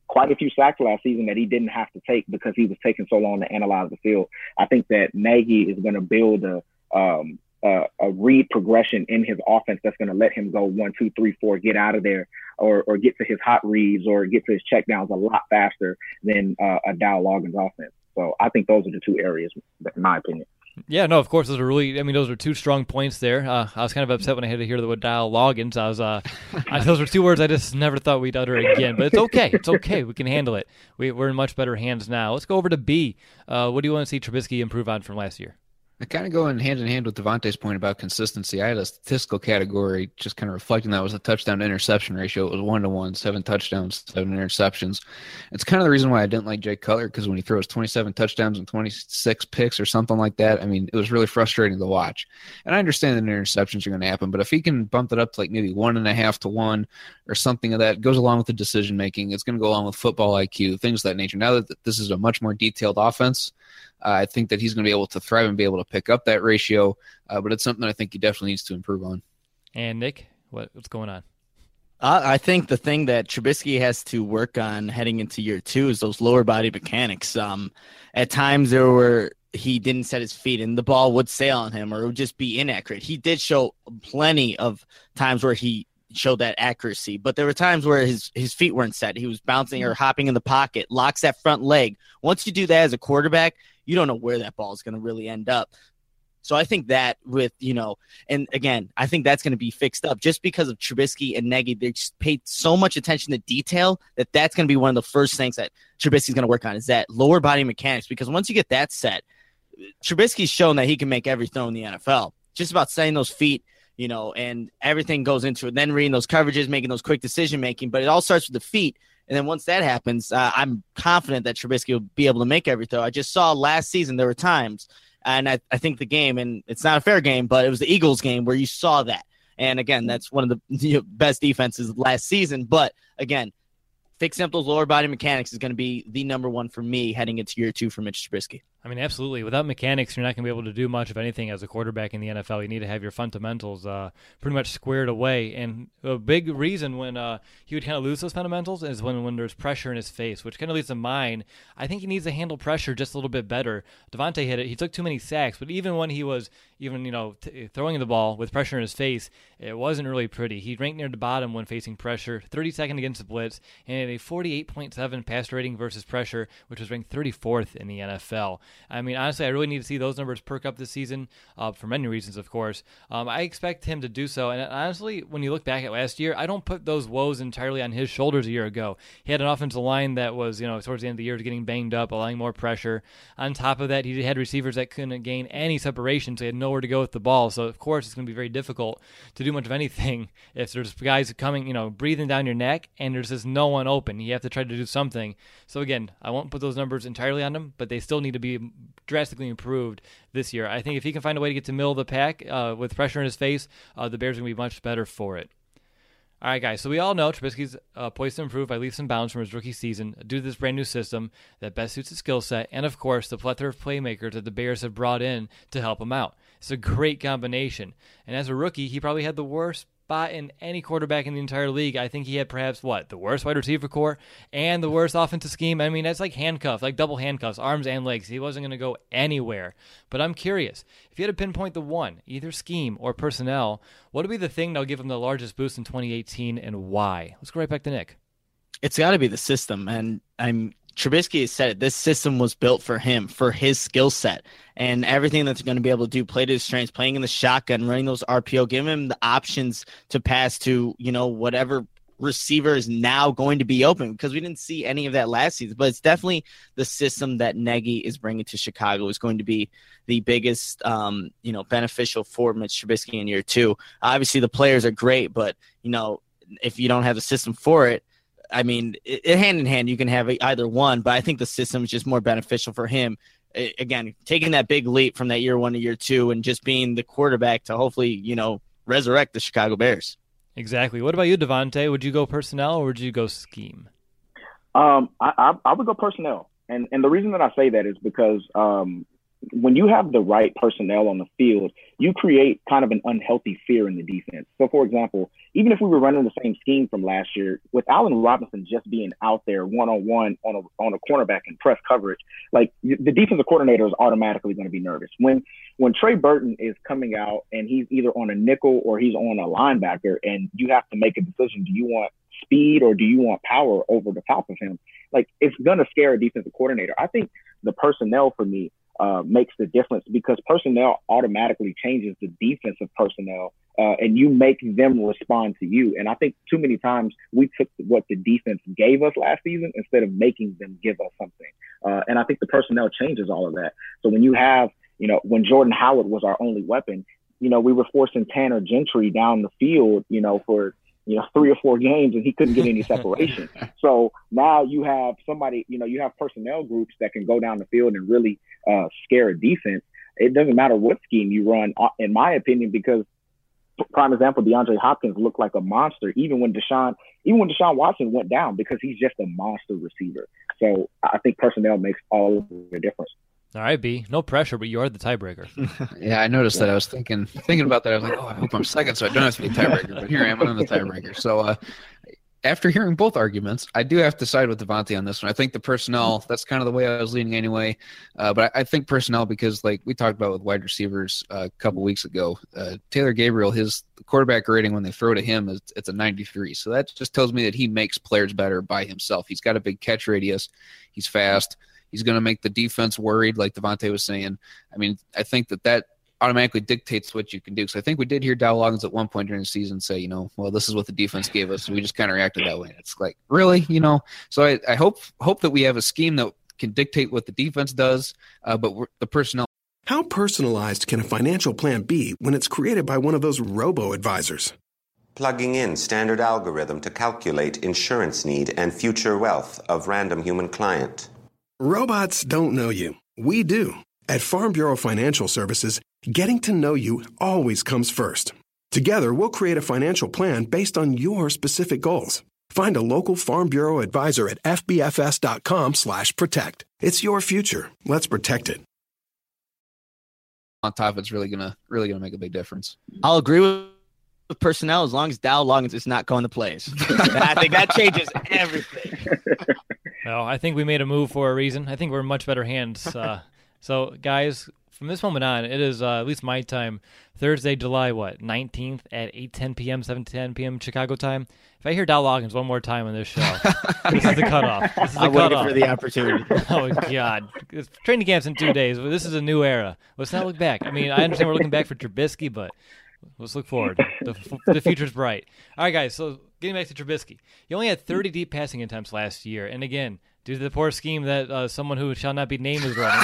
Speaker 5: quite a few sacks last season that he didn't have to take because he was taking so long to analyze the field. I think that Nagy is going to build a um, uh, a read progression in his offense that's going to let him go one, two, three, four, get out of there, or or get to his hot reads or get to his checkdowns a lot faster than uh, a Dow Loggins offense. So I think those are the two areas, in my opinion.
Speaker 2: Yeah, no, of course, those are really, I mean, those are two strong points there. Uh, I was kind of upset when I had to hear the word Dow Loggins. I was, uh, I, those were two words I just never thought we'd utter again, but it's okay. It's okay. We can handle it. We, we're in much better hands now. Let's go over to B. Uh, what do you want to see Trubisky improve on from last year?
Speaker 4: I kind of go in hand in hand with Devontae's point about consistency. I had a statistical category just kind of reflecting that was a touchdown to interception ratio. It was one to one, seven touchdowns, seven interceptions. It's kind of the reason why I didn't like Jay Cutler, because when he throws twenty-seven touchdowns and twenty-six picks or something like that, I mean, it was really frustrating to watch. And I understand that interceptions are going to happen, but if he can bump it up to like maybe one and a half to one or something of that, it goes along with the decision making. It's going to go along with football I Q, things of that nature. Now that this is a much more detailed offense, Uh, I think that he's going to be able to thrive and be able to pick up that ratio, uh, but it's something I think he definitely needs to improve on.
Speaker 2: And Nick, what, what's going on?
Speaker 3: Uh, I think the thing that Trubisky has to work on heading into year two is those lower body mechanics. Um, at times there were he didn't set his feet and the ball would sail on him or it would just be inaccurate. He did show plenty of times where he showed that accuracy, but there were times where his, his feet weren't set. He was bouncing or hopping in the pocket, locks that front leg. Once you do that as a quarterback, you don't know where that ball is going to really end up. So I think that with, you know, and again, I think that's going to be fixed up just because of Trubisky and Nagy. They just paid so much attention to detail that that's going to be one of the first things that Trubisky's going to work on is that lower body mechanics, because once you get that set, Trubisky's shown that he can make every throw in the N F L. Just about setting those feet, you know, and everything goes into it. Then reading those coverages, making those quick decision making, but it all starts with the feet. And then once that happens, uh, I'm confident that Trubisky will be able to make every throw. I just saw last season there were times, and I, I think the game, and it's not a fair game, but it was the Eagles game where you saw that. And again, that's one of the you know, best defenses last season. But again, fixing up those lower body mechanics is going to be the number one for me heading into year two for Mitch Trubisky.
Speaker 2: I mean, absolutely. Without mechanics, you're not going to be able to do much of anything as a quarterback in the N F L. You need to have your fundamentals uh, pretty much squared away. And a big reason when uh, he would kind of lose those fundamentals is when, when there's pressure in his face, which kind of leads to mine. I think he needs to handle pressure just a little bit better. Devontae hit it. He took too many sacks, but even when he was even, you know, t- throwing the ball with pressure in his face, it wasn't really pretty. He ranked near the bottom when facing pressure, thirty-second against the blitz, and had a forty-eight point seven pass rating versus pressure, which was ranked thirty-fourth in the N F L. I mean, honestly, I really need to see those numbers perk up this season uh, for many reasons, of course. Um, I expect him to do so. And honestly, when you look back at last year, I don't put those woes entirely on his shoulders a year ago. He had an offensive line that was, you know, towards the end of the year getting banged up, allowing more pressure. On top of that, he had receivers that couldn't gain any separation, so he had nowhere to go with the ball. So, of course, it's going to be very difficult to do much of anything if there's guys coming, you know, breathing down your neck and there's just no one open. You have to try to do something. So, again, I won't put those numbers entirely on him, but they still need to be drastically improved this year. I think if he can find a way to get to middle of the pack uh, with pressure in his face, uh, the Bears are going to be much better for it. All right, guys, so we all know Trubisky's uh, poised to improve by leaps and bounds from his rookie season due to this brand new system that best suits his skill set and, of course, the plethora of playmakers that the Bears have brought in to help him out. It's a great combination. And as a rookie, he probably had the worst spot in any quarterback in the entire league. I think he had perhaps, what, the worst wide receiver core and the worst offensive scheme. I mean, that's like handcuffs, like double handcuffs, arms and legs. He wasn't going to go anywhere. But I'm curious, if you had to pinpoint the one, either scheme or personnel, what would be the thing that will give him the largest boost in twenty eighteen and why? Let's go right back to Nick.
Speaker 3: It's got to be the system. And I'm Trubisky has said it. This system was built for him, for his skill set, and everything that's going to be able to do, play to his strengths, playing in the shotgun, running those R P O, giving him the options to pass to, you know, whatever receiver is now going to be open, because we didn't see any of that last season. But it's definitely the system that Nagy is bringing to Chicago is going to be the biggest, um, you know, beneficial for Mitch Trubisky in year two. Obviously, the players are great, but, you know, if you don't have the system for it, I mean, it, it, hand in hand, you can have either one, but I think the system is just more beneficial for him. It, again, taking that big leap from that year one to year two and just being the quarterback to hopefully, you know, resurrect the Chicago Bears.
Speaker 2: Exactly. What about you, Devontae? Would you go personnel or would you go scheme?
Speaker 5: Um, I, I, I would go personnel. And and the reason that I say that is because um, when you have the right personnel on the field, you create kind of an unhealthy fear in the defense. So, for example, even if we were running the same scheme from last year, with Allen Robinson just being out there one-on-one on a, on a cornerback and press coverage, like the defensive coordinator is automatically going to be nervous. When when Trey Burton is coming out and he's either on a nickel or he's on a linebacker, and you have to make a decision, do you want speed or do you want power over the top of him? Like, it's going to scare a defensive coordinator. I think the personnel for me uh, makes the difference, because personnel automatically changes the defensive personnel, uh, and you make them respond to you. And I think too many times we took what the defense gave us last season instead of making them give us something. Uh, and I think the personnel changes all of that. So when you have, you know, when Jordan Howard was our only weapon, you know, we were forcing Tanner Gentry down the field, you know, for, you know, three or four games, and he couldn't get any separation. So now you have somebody, you know, you have personnel groups that can go down the field and really uh, scare a defense. It doesn't matter what scheme you run, in my opinion, because prime example, DeAndre Hopkins looked like a monster, even when Deshaun, even when Deshaun Watson went down, because he's just a monster receiver. So I think personnel makes all the difference.
Speaker 2: All right, B. No pressure, but you are the tiebreaker.
Speaker 4: Yeah, I noticed that. I was thinking thinking about that. I was like, oh, I hope I'm second, so I don't have to be tiebreaker. But here I am, I'm the tiebreaker. So uh, after hearing both arguments, I do have to side with Devontae on this one. I think the personnel, that's kind of the way I was leaning anyway. Uh, but I, I think personnel, because like we talked about with wide receivers uh, a couple weeks ago, uh, Taylor Gabriel, his quarterback rating when they throw to him, is it's a ninety-three. So that just tells me that he makes players better by himself. He's got a big catch radius. He's fast. He's going to make the defense worried, like Devontae was saying. I mean, I think that that automatically dictates what you can do. So I think we did hear Dow Loggins at one point during the season say, you know, well, this is what the defense gave us. And we just kind of reacted that way. It's like, really? You know, so I, I hope hope that we have a scheme that can dictate what the defense does, uh, but we're, the personnel.
Speaker 6: How personalized can a financial plan be when it's created by one of those robo-advisors?
Speaker 7: Plugging in standard algorithm to calculate insurance need and future wealth of random human client.
Speaker 6: Robots don't know you. We do. At Farm Bureau Financial Services, getting to know you always comes first. Together, we'll create a financial plan based on your specific goals. Find a local Farm Bureau advisor at fbfs.com slash protect. It's your future. Let's protect it.
Speaker 4: On top, it's really gonna really gonna make a big difference.
Speaker 3: I'll agree with with personnel as long as Dow Loggins is not going to plays. I think that changes everything.
Speaker 2: Well, I think we made a move for a reason. I think we're in much better hands. Uh, so, guys, from this moment on, it is, uh, at least my time, Thursday, July, what, nineteenth at eight ten p.m., seven ten p.m. Chicago time. If I hear Dow Loggins one more time on this show, this is the cutoff. This is the
Speaker 3: I'm
Speaker 2: cutoff.
Speaker 3: waiting for the opportunity.
Speaker 2: Oh, God. It's training camp's in two days, but this is a new era. Let's not look back. I mean, I understand we're looking back for Trubisky, but let's look forward. The, the future's bright. All right, guys, so getting back to Trubisky. He only had thirty deep passing attempts last year, and again, due to the poor scheme that uh, someone who shall not be named is running,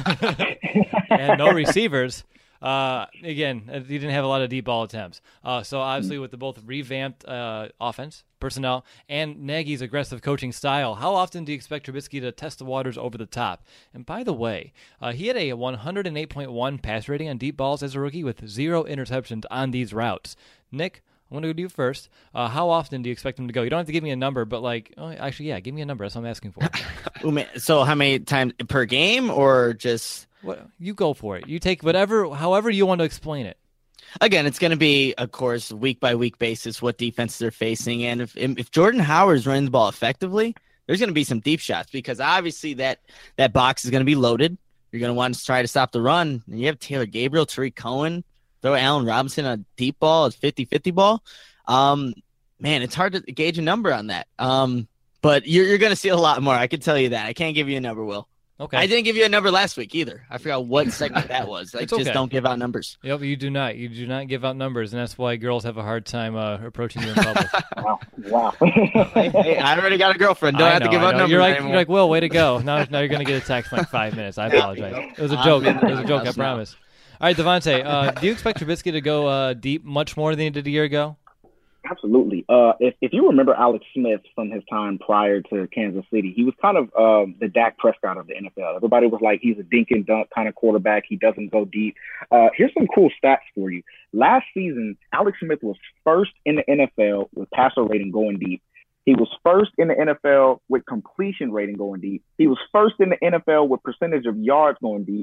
Speaker 2: and no receivers, uh, again, he didn't have a lot of deep ball attempts. Uh, so obviously with the both revamped uh, offense, personnel, and Nagy's aggressive coaching style, how often do you expect Trubisky to test the waters over the top? And by the way, uh, he had a one oh eight point one pass rating on deep balls as a rookie with zero interceptions on these routes. Nick, I want to go to you first. Uh, how often do you expect him to go? You don't have to give me a number, but like, oh, actually, yeah, give me a number. That's what I'm asking for.
Speaker 3: So how many times per game, or just?
Speaker 2: What, you go for it. You take whatever, however you want to explain it.
Speaker 3: Again, it's going to be, of course, week by week basis what defenses they're facing, and if if Jordan Howard is running the ball effectively, there's going to be some deep shots, because obviously that that box is going to be loaded. You're going to want to try to stop the run, and you have Taylor Gabriel, Tariq Cohen. Throw Allen Robinson a deep ball, a fifty-fifty ball. Um, man, it's hard to gauge a number on that. Um, but you're, you're going to see a lot more. I can tell you that. I can't give you a number, Will.
Speaker 2: Okay.
Speaker 3: I didn't give you a number last week either. I forgot what segment that was. I
Speaker 2: It's
Speaker 3: just
Speaker 2: okay.
Speaker 3: don't give out numbers.
Speaker 2: Yep, you do not. You do not give out numbers, and that's why girls have a hard time uh, approaching you in public.
Speaker 5: Wow. Wow.
Speaker 3: hey, hey, I already got a girlfriend. Don't
Speaker 2: I
Speaker 3: have
Speaker 2: know,
Speaker 3: to give
Speaker 2: I
Speaker 3: out
Speaker 2: know.
Speaker 3: numbers
Speaker 2: You're like,
Speaker 3: anymore.
Speaker 2: you're like, Will, way to go. Now, now you're going to get a text in like five minutes. I apologize. It was a joke. It was a joke, I promise. All right, Devontae, uh, do you expect Trubisky to go uh, deep much more than he did a year ago?
Speaker 5: Absolutely. Uh, if, if you remember Alex Smith from his time prior to Kansas City, he was kind of um, the Dak Prescott of the N F L. Everybody was like, he's a dink and dunk kind of quarterback. He doesn't go deep. Uh, here's some cool stats for you. Last season, Alex Smith was first in the N F L with passer rating going deep. He was first in the N F L with completion rating going deep. He was first in the N F L with percentage of yards going deep.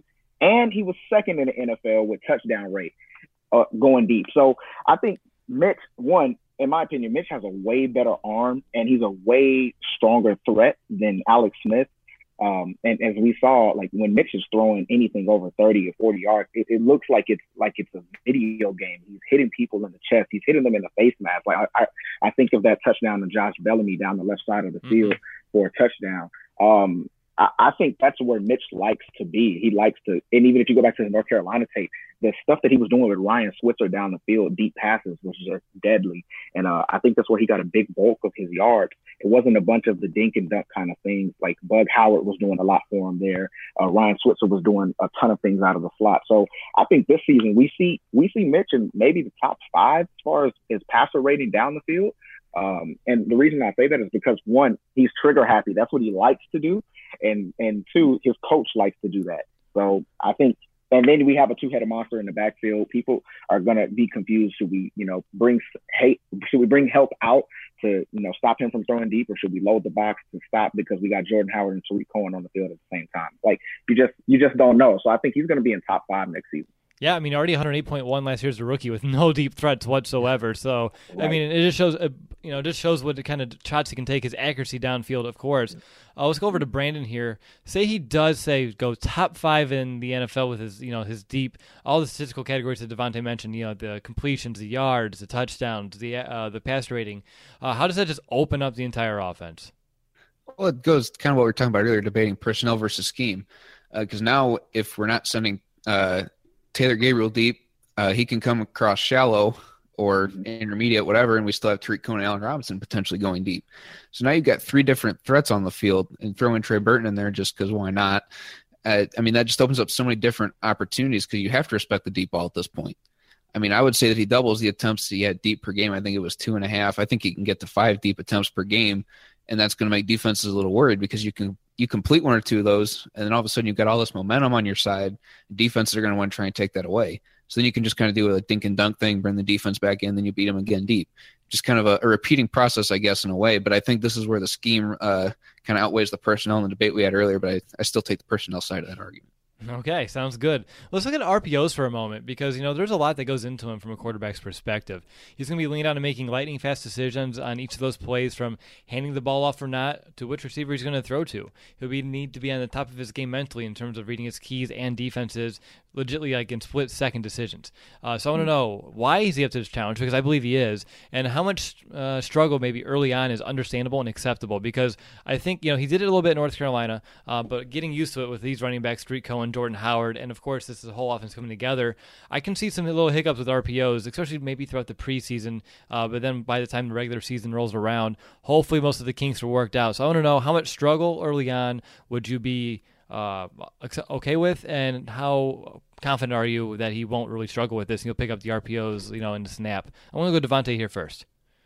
Speaker 5: and he was second in the N F L with touchdown rate uh, going deep. So I think Mitch, one, in my opinion, Mitch has a way better arm, and he's a way stronger threat than Alex Smith. Um, and as we saw, like when Mitch is throwing anything over thirty or forty yards, it, it looks like it's like it's a video game. He's hitting people in the chest. He's hitting them in the face mask. Like I, I, I think of that touchdown to Josh Bellamy down the left side of the field mm-hmm. for a touchdown. Um, I, I think that's where Mitch likes to be. He likes to, and even if you go back to the North Carolina tape, the stuff that he was doing with Ryan Switzer down the field, deep passes, was just deadly. And uh, I think that's where he got a big bulk of his yards. It wasn't a bunch of the dink and dunk kind of things. Like Bug Howard was doing a lot for him there. Uh, Ryan Switzer was doing a ton of things out of the slot. So I think this season we see we see Mitch in maybe the top five as far as his passer rating down the field. Um, and the reason I say that is because, one, he's trigger happy. That's what he likes to do. And and two, his coach likes to do that. So I think, and then we have a two-headed monster in the backfield. People are going to be confused. Should we, you know, bring hate? Should we bring help out to, you know, stop him from throwing deep, or should we load the box to stop because we got Jordan Howard and Tariq Cohen on the field at the same time? Like you just you just don't know. So I think he's going to be in top five next season.
Speaker 2: Yeah, I mean, already one oh eight point one last year as a rookie with no deep threats whatsoever. So, right. I mean, it just shows, uh, you know, it just shows what kind of shots he can take, his accuracy downfield, of course. Uh, let's go over to Brandon here. Say he does say go top five in the N F L with his, you know, his deep, all the statistical categories that Devontae mentioned, you know, the completions, the yards, the touchdowns, the uh, the pass rating. Uh, how does that just open up the entire offense?
Speaker 4: Well, it goes kind of what we were talking about earlier, debating personnel versus scheme. Because uh, now if we're not sending uh, – Taylor Gabriel deep, uh, he can come across shallow or intermediate, whatever, and we still have Tariq Cohen and Allen Robinson potentially going deep. So now you've got three different threats on the field, and throw in Trey Burton in there just because why not? Uh, I mean, that just opens up so many different opportunities because you have to respect the deep ball at this point. I mean, I would say that he doubles the attempts he had deep per game. I think it was two and a half. I think he can get to five deep attempts per game, and that's going to make defenses a little worried because you can you complete one or two of those, and then all of a sudden you've got all this momentum on your side. Defenses are going to want to try and take that away. So then you can just kind of do a dink and dunk thing, bring the defense back in, then you beat them again deep. Just kind of a, a repeating process, I guess, in a way. But I think this is where the scheme uh, kind of outweighs the personnel in the debate we had earlier, but I, I still take the personnel side of that argument.
Speaker 2: Okay, sounds good. Let's look at R P Os for a moment because, you know, there's a lot that goes into him from a quarterback's perspective. He's going to be leaned on to making lightning-fast decisions on each of those plays, from handing the ball off or not to which receiver he's going to throw to. He'll be need to be on the top of his game mentally in terms of reading his keys and defenses, legitimately like in split-second decisions. Uh, so I want to know, why is he up to this challenge? Because I believe he is. And how much uh, struggle maybe early on is understandable and acceptable? Because I think, you know, he did it a little bit in North Carolina, uh, but getting used to it with these running backs, Tariq Cohen, Jordan Howard, and of course this is a whole offense coming together, I can see some little hiccups with R P Os, especially maybe throughout the preseason, uh, but then by the time the regular season rolls around, hopefully most of the kinks are worked out. So I want to know, how much struggle early on would you be uh, okay with, and how confident are you that he won't really struggle with this and he'll pick up the R P Os, you know, in the snap? I want to go Devontae here first.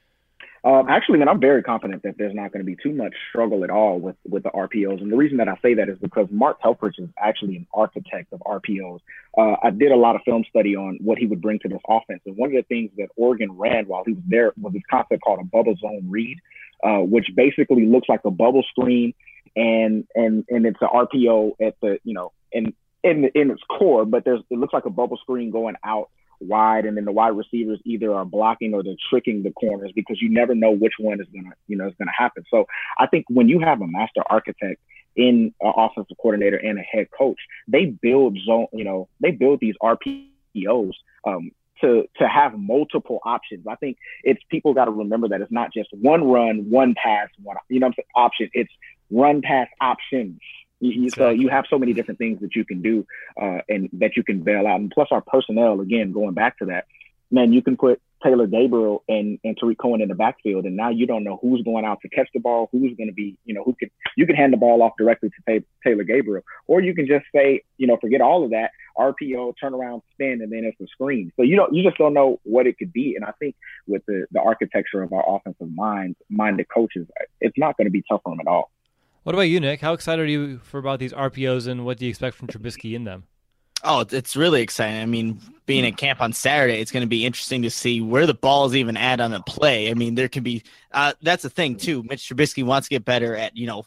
Speaker 5: Um, actually, man, I'm very confident that there's not going to be too much struggle at all with, with the R P Os. And the reason that I say that is because Mark Helfrich is actually an architect of R P Os. Uh, I did a lot of film study on what he would bring to this offense. And one of the things that Oregon ran while he was there was this concept called a bubble zone read, uh, which basically looks like a bubble screen. And, and, and it's an R P O at the, you know, in, in, in its core, but there's, it looks like a bubble screen going out wide, and then the wide receivers either are blocking or they're tricking the corners because you never know which one is gonna, you know, is gonna happen. So I think when you have a master architect in an offensive coordinator and a head coach, they build zone, you know, they build these R P Os um, to to have multiple options. I think it's people got to remember that it's not just one run, one pass, one, you know, what I'm saying, option. It's run, pass, options. You, so you have so many different things that you can do uh, and that you can bail out. And plus our personnel, again, going back to that, man, you can put Taylor Gabriel and, and Tariq Cohen in the backfield, and now you don't know who's going out to catch the ball, who's going to be, you know, who can, you can hand the ball off directly to Tay, Taylor Gabriel, or you can just say, you know, forget all of that, R P O, turn around, spin, and then it's a screen. So you don't, you just don't know what it could be. And I think with the, the architecture of our offensive minds, minded coaches, it's not going to be tough for them at all.
Speaker 2: What about you, Nick? How excited are you for about these R P Os, and what do you expect from Trubisky in them?
Speaker 3: Oh, it's really exciting. I mean, being at camp on Saturday, it's going to be interesting to see where the ball is even at on a play. I mean, there can be uh, – that's the thing, too. Mitch Trubisky wants to get better at, you know,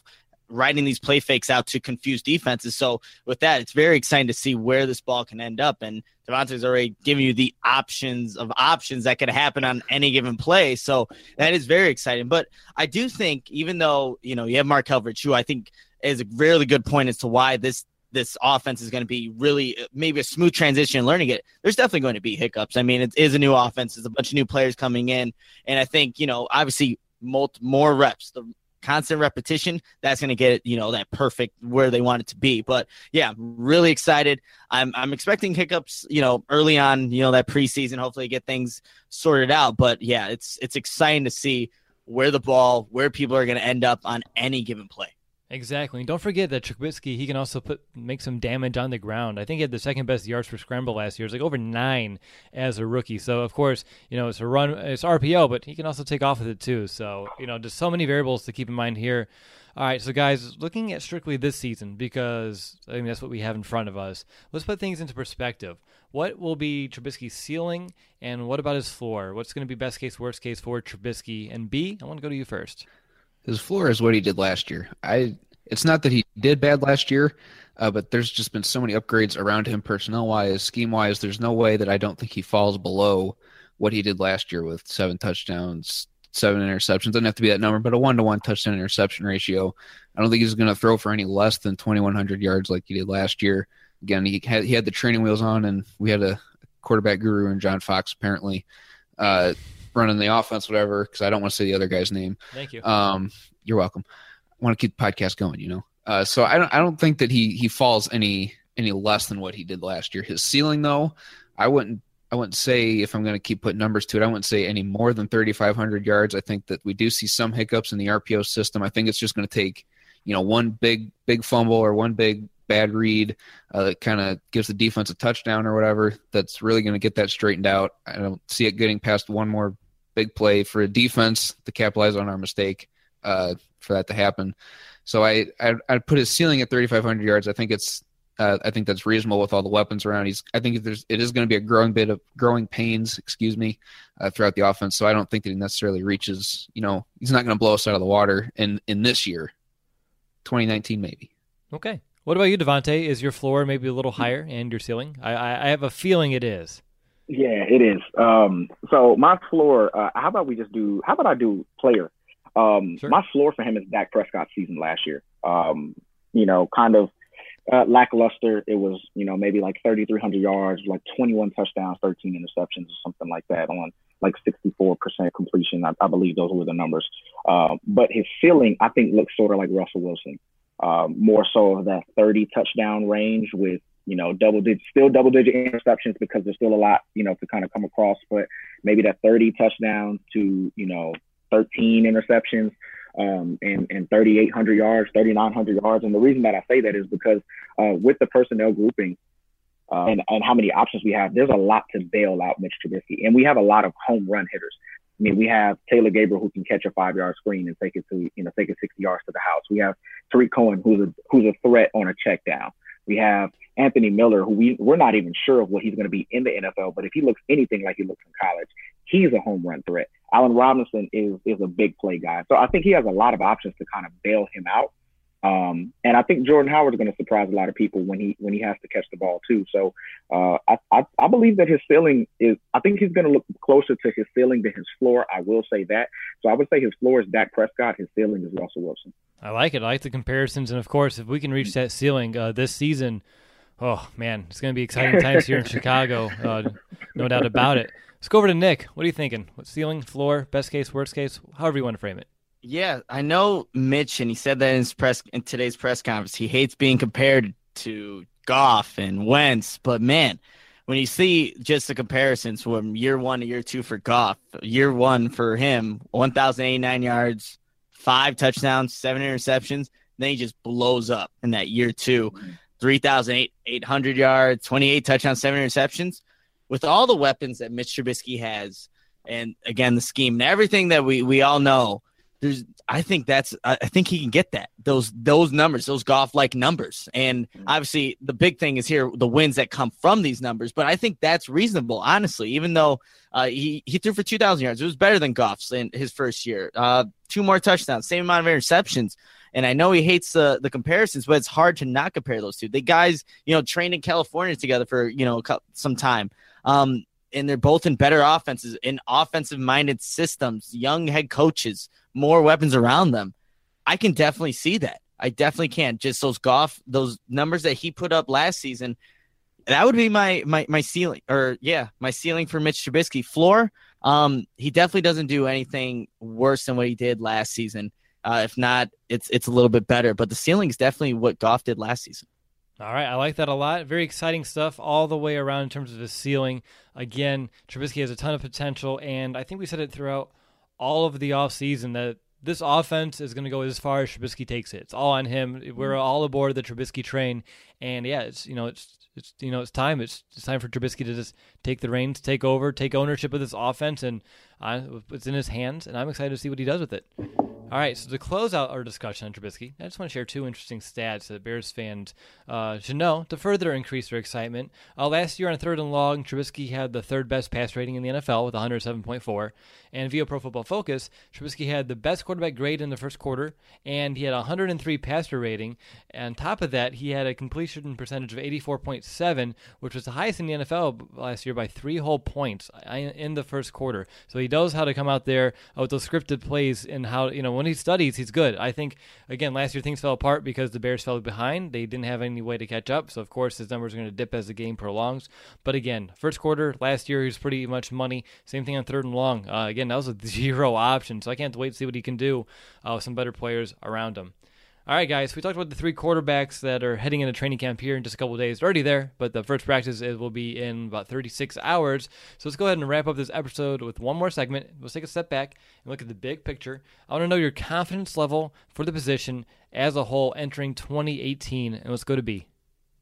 Speaker 3: writing these play fakes out to confuse defenses. So with that, it's very exciting to see where this ball can end up. And Devontae's already giving you the options of options that could happen on any given play. So that is very exciting. But I do think, even though, you know, you have Mark Helfrich, who I think is a really good point as to why this this offense is going to be really maybe a smooth transition learning it, there's definitely going to be hiccups. I mean, it is a new offense. There's a bunch of new players coming in. And I think, you know, obviously multi, more reps, the constant repetition, that's going to get it, you know, that perfect where they want it to be. But yeah, really excited. I'm I'm expecting hiccups, you know, early on, you know, that preseason, hopefully get things sorted out. But yeah, it's it's exciting to see where the ball, where people are going to end up on any given play.
Speaker 2: Exactly. And don't forget that Trubisky, he can also put make some damage on the ground. I think he had the second best yards per scramble last year. It's like over nine as a rookie. So, of course, you know, it's a run, it's R P O, but he can also take off with it too. So, you know, just so many variables to keep in mind here. All right, so guys, looking at strictly this season, because I mean that's what we have in front of us, let's put things into perspective. What will be Trubisky's ceiling, and what about his floor? What's going to be best case, worst case for Trubisky? And B, I want to go to you first.
Speaker 4: His floor is what he did last year. I. It's not that he did bad last year, uh, but there's just been so many upgrades around him personnel-wise, scheme-wise. There's no way that I don't think he falls below what he did last year with seven touchdowns, seven interceptions. Doesn't have to be that number, but a one-to-one touchdown interception ratio. I don't think he's going to throw for any less than twenty-one hundred yards like he did last year. Again, he had, he had the training wheels on, and we had a quarterback guru in John Fox apparently uh, running the offense, whatever, because I don't want to say the other guy's name.
Speaker 2: Thank you.
Speaker 4: Um, you're welcome. I want to keep the podcast going, you know. Uh, so I don't I don't think that he he falls any any less than what he did last year. His ceiling, though, I wouldn't I wouldn't say, if I'm going to keep putting numbers to it, I wouldn't say any more than thirty-five hundred yards. I think that we do see some hiccups in the R P O system. I think it's just going to take, you know, one big big fumble or one big bad read uh, that kind of gives the defense a touchdown or whatever. That's really going to get that straightened out. I don't see it getting past one more big play for a defense to capitalize on our mistake. Uh, for that to happen. So I, I I'd put his ceiling at thirty-five hundred yards. I think it's uh, I think that's reasonable with all the weapons around. He's I think there's it is going to be a growing bit of growing pains, excuse me, uh, throughout the offense. So I don't think that he necessarily reaches, you know, he's not going to blow us out of the water in, in this year, twenty nineteen maybe.
Speaker 2: Okay. What about you, Devontae? Is your floor maybe a little higher and your ceiling? I I, I have a feeling it is.
Speaker 5: Yeah, it is. Um, so my floor, uh, how about we just do, how about I do player? Um,
Speaker 2: sure.
Speaker 5: My floor for him is Dak Prescott's season last year. Um, you know, kind of uh, lackluster. It was, you know, maybe like thirty-three hundred yards, like twenty-one touchdowns, thirteen interceptions or something like that on like sixty-four percent completion. I, I believe those were the numbers. Uh, but his ceiling, I think, looks sort of like Russell Wilson, um, more so of that thirty touchdown range with, you know, double digit, still double digit interceptions because there's still a lot, you know, to kind of come across, but maybe that thirty touchdowns to, you know, thirteen interceptions um, and, and thirty-eight hundred yards, thirty-nine hundred yards. And the reason that I say that is because uh, with the personnel grouping uh, and, and how many options we have, there's a lot to bail out Mitch Trubisky. And we have a lot of home run hitters. I mean, we have Taylor Gabriel who can catch a five-yard screen and take it to, you know, take it sixty yards to the house. We have Tariq Cohen who's a, who's a threat on a check down. We have Anthony Miller, who we, we're not even sure of what he's going to be in the N F L, but if he looks anything like he looks in college, he's a home run threat. Allen Robinson is is a big play guy. So I think he has a lot of options to kind of bail him out. Um, and I think Jordan Howard's going to surprise a lot of people when he when he has to catch the ball too. So uh, I, I I believe that his ceiling is, I think he's going to look closer to his ceiling than his floor. I will say that. So I would say his floor is Dak Prescott. His ceiling is Russell Wilson.
Speaker 2: I like it. I like the comparisons. And, of course, if we can reach that ceiling uh, this season, oh, man, it's going to be exciting times here in Chicago. Uh, no doubt about it. Let's go over to Nick. What are you thinking? What ceiling, floor, best case, worst case, however you want to frame it?
Speaker 3: Yeah, I know Mitch, and he said that in his press in today's press conference. He hates being compared to Goff and Wentz, but man, when you see just the comparisons from year one to year two for Goff, year one for him, one thousand eighty-nine yards, five touchdowns, seven interceptions, then he just blows up in that year two, three thousand eight hundred yards, twenty-eight touchdowns, seven interceptions. With all the weapons that Mitch Trubisky has, and again the scheme and everything that we we all know. There's, I think that's, I think he can get that, those, those numbers, those Goff-like numbers. And obviously the big thing is here, the wins that come from these numbers, but I think that's reasonable, honestly, even though uh, he, he threw for two thousand yards. It was better than Goff's in his first year, uh, two more touchdowns, same amount of interceptions. And I know he hates the, the comparisons, but it's hard to not compare those two. The guys, you know, trained in California together for, you know, some time. Um, and they're both in better offenses, in offensive-minded systems, young head coaches, more weapons around them. I can definitely see that. I definitely can. Just those Goff, those numbers that he put up last season, that would be my my my ceiling, or yeah, my ceiling for Mitch Trubisky. Floor, um, he definitely doesn't do anything worse than what he did last season. Uh, if not, it's it's a little bit better. But the ceiling is definitely what Goff did last season.
Speaker 2: All right, I like that a lot. Very exciting stuff all the way around in terms of his ceiling. Again, Trubisky has a ton of potential, and I think we said it throughout all of the offseason that this offense is going to go as far as Trubisky takes it. It's all on him. We're all aboard the Trubisky train, and yeah, it's you know it's it's you know it's time. It's, it's time for Trubisky to just take the reins, take over, take ownership of this offense, and uh, it's in his hands. And I'm excited to see what he does with it. All right, so to close out our discussion on Trubisky, I just want to share two interesting stats that Bears fans uh, should know to further increase their excitement. Uh, last year on third and long, Trubisky had the third best pass rating in the N F L with one oh seven point four. And via Pro Football Focus, Trubisky had the best quarterback grade in the first quarter, and he had a one hundred three passer rating. And on top of that, he had a completion percentage of eighty-four point seven, which was the highest in the N F L last year by three whole points in the first quarter. So he knows how to come out there with those scripted plays and how, you know, when he studies, he's good. I think, again, last year things fell apart because the Bears fell behind. They didn't have any way to catch up. So, of course, his numbers are going to dip as the game prolongs. But, again, first quarter, last year, he was pretty much money. Same thing on third and long. Uh, again, that was a zero option. So I can't wait to see what he can do uh, with some better players around him. All right, guys, we talked about the three quarterbacks that are heading into training camp here in just a couple of days. They're already there, but the first practice is, will be in about thirty-six hours. So let's go ahead and wrap up this episode with one more segment. Let's take a step back and look at the big picture. I want to know your confidence level for the position as a whole entering twenty eighteen, and let's go to B.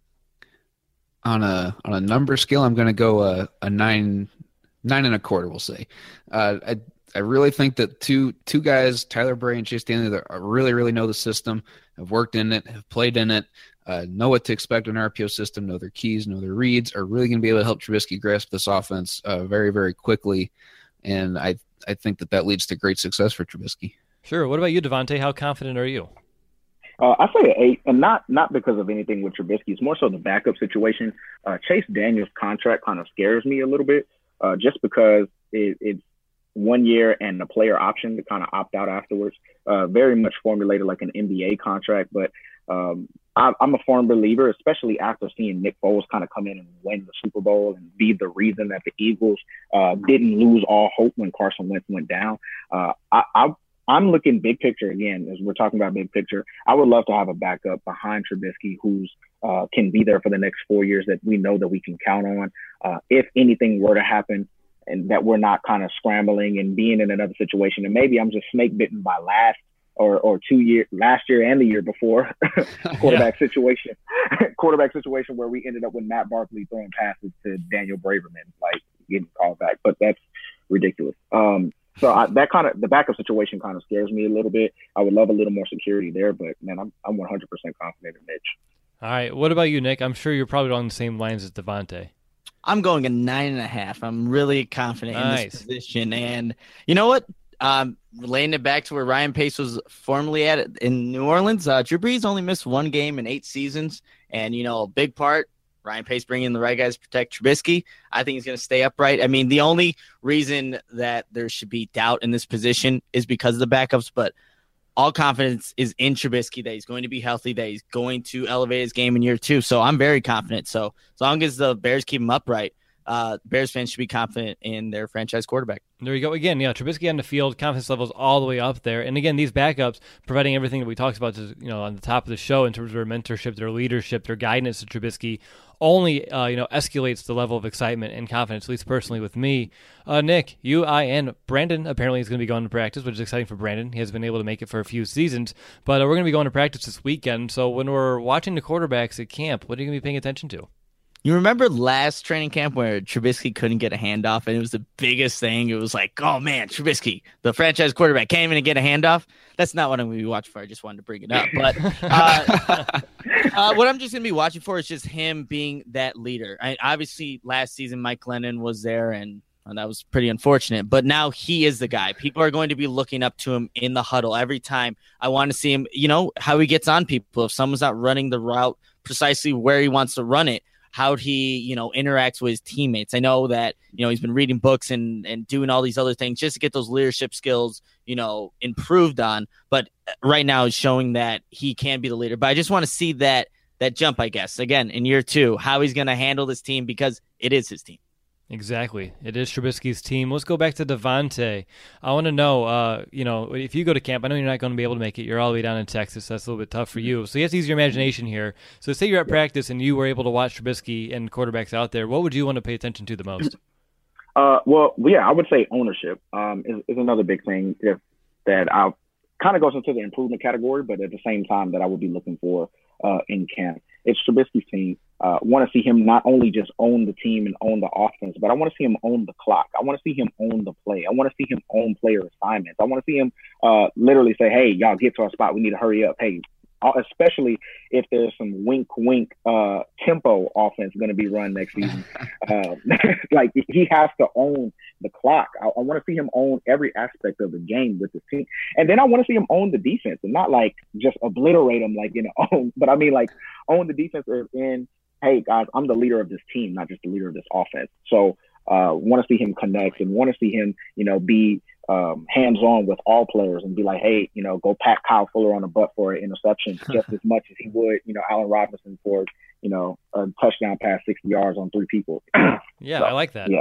Speaker 4: On a on a number scale, I'm going to go a, a nine nine and a quarter. We'll say. Uh, I I really think that two two guys, Tyler Bray and Chase Daniel, that really really know the system, have worked in it, have played in it, uh, know what to expect in an R P O system, know their keys, know their reads, are really going to be able to help Trubisky grasp this offense uh, very very quickly, and I I think that that leads to great success for Trubisky.
Speaker 2: Sure. What about you, Devontae? How confident are you?
Speaker 5: Uh, I say an eight, and not not because of anything with Trubisky. It's more so the backup situation. Uh, Chase Daniel's contract kind of scares me a little bit, uh, just because it, it's one year and the player option to kind of opt out afterwards. Uh, very much formulated like an N B A contract, but um, I, I'm a firm believer, especially after seeing Nick Foles kind of come in and win the Super Bowl and be the reason that the Eagles uh, didn't lose all hope when Carson Wentz went down. Uh, I, I I'm looking big picture again, as we're talking about big picture. I would love to have a backup behind Trubisky who's uh, can be there for the next four years that we know that we can count on. Uh, if anything were to happen and that we're not kind of scrambling and being in another situation, and maybe I'm just snake bitten by last or, or two years, last year and the year before quarterback yeah. situation, quarterback situation where we ended up with Matt Barkley throwing passes to Daniel Braverman, like getting called back, but that's ridiculous. Um, So I, that kind of the backup situation kind of scares me a little bit. I would love a little more security there, but man, I'm I'm one hundred percent confident in Mitch.
Speaker 2: All right, what about you, Nick? I'm sure you're probably on the same lines as Devontae.
Speaker 3: I'm going a nine and a half. I'm really confident
Speaker 2: nice.
Speaker 3: in this position, and you know what? Um, relating it back to where Ryan Pace was formerly at in New Orleans, uh, Drew Brees only missed one game in eight seasons, and you know, a big part. Ryan Pace bringing in the right guys to protect Trubisky. I think he's going to stay upright. I mean, the only reason that there should be doubt in this position is because of the backups, but all confidence is in Trubisky that he's going to be healthy, that he's going to elevate his game in year two. So I'm very confident. So as long as the Bears keep him upright, uh, Bears fans should be confident in their franchise quarterback.
Speaker 2: There you go. Again, yeah, Trubisky on the field, confidence levels all the way up there. And again, these backups providing everything that we talked about, you know, on the top of the show in terms of their mentorship, their leadership, their guidance to Trubisky, only uh, you know escalates the level of excitement and confidence, at least personally with me. Uh, Nick, you, I, and Brandon apparently is going to be going to practice, which is exciting for Brandon. He has been able to make it for a few seasons, but uh, we're going to be going to practice this weekend. So when we're watching the quarterbacks at camp, what are you going to be paying attention to?
Speaker 3: You remember last training camp where Trubisky couldn't get a handoff, and it was the biggest thing. It was like, oh, man, Trubisky, the franchise quarterback, can't even get a handoff. That's not what I'm going to be watching for. I just wanted to bring it up. But uh, uh, what I'm just going to be watching for is just him being that leader. I, obviously, last season, Mike Glennon was there, and and that was pretty unfortunate. But now he is the guy. People are going to be looking up to him in the huddle every time. I want to see him, you know, how he gets on people. If someone's not running the route precisely where he wants to run it, how he, you know, interacts with his teammates. I know that, you know, he's been reading books and, and doing all these other things just to get those leadership skills, you know, improved on. But right now he's showing that he can be the leader. But I just want to see that that jump, I guess, again, in year two, how he's going to handle this team because it is his team.
Speaker 2: Exactly. It is Trubisky's team. Let's go back to Devontae. I want to know, uh, you know, if you go to camp, I know you're not going to be able to make it. You're all the way down in Texas. So that's a little bit tough for you. So you have to use your imagination here. So say you're at practice and you were able to watch Trubisky and quarterbacks out there. What would you want to pay attention to the most?
Speaker 5: Uh, well, yeah, I would say ownership um, is, is another big thing if, that I kind of goes into the improvement category, but at the same time that I would be looking for uh, in camp. It's Trubisky's team. Uh, want to see him not only just own the team and own the offense, but I want to see him own the clock. I want to see him own the play. I want to see him own player assignments. I want to see him uh, literally say, hey, y'all get to our spot. We need to hurry up. Hey, especially if there's some wink, wink uh, tempo offense going to be run next season. uh, like he has to own the clock. I, I want to see him own every aspect of the game with the team. And then I want to see him own the defense and not like just obliterate them like, you know, own, but I mean like own the defense in, hey guys, I'm the leader of this team, not just the leader of this offense. So uh, want to see him connect and want to see him, you know, be um, hands-on with all players and be like, hey, you know, go pat Kyle Fuller on the butt for an interception just as much as he would, you know, Allen Robinson for, you know, a touchdown pass sixty yards on three people.
Speaker 2: Yeah,
Speaker 5: so,
Speaker 2: I like that.
Speaker 5: Yeah.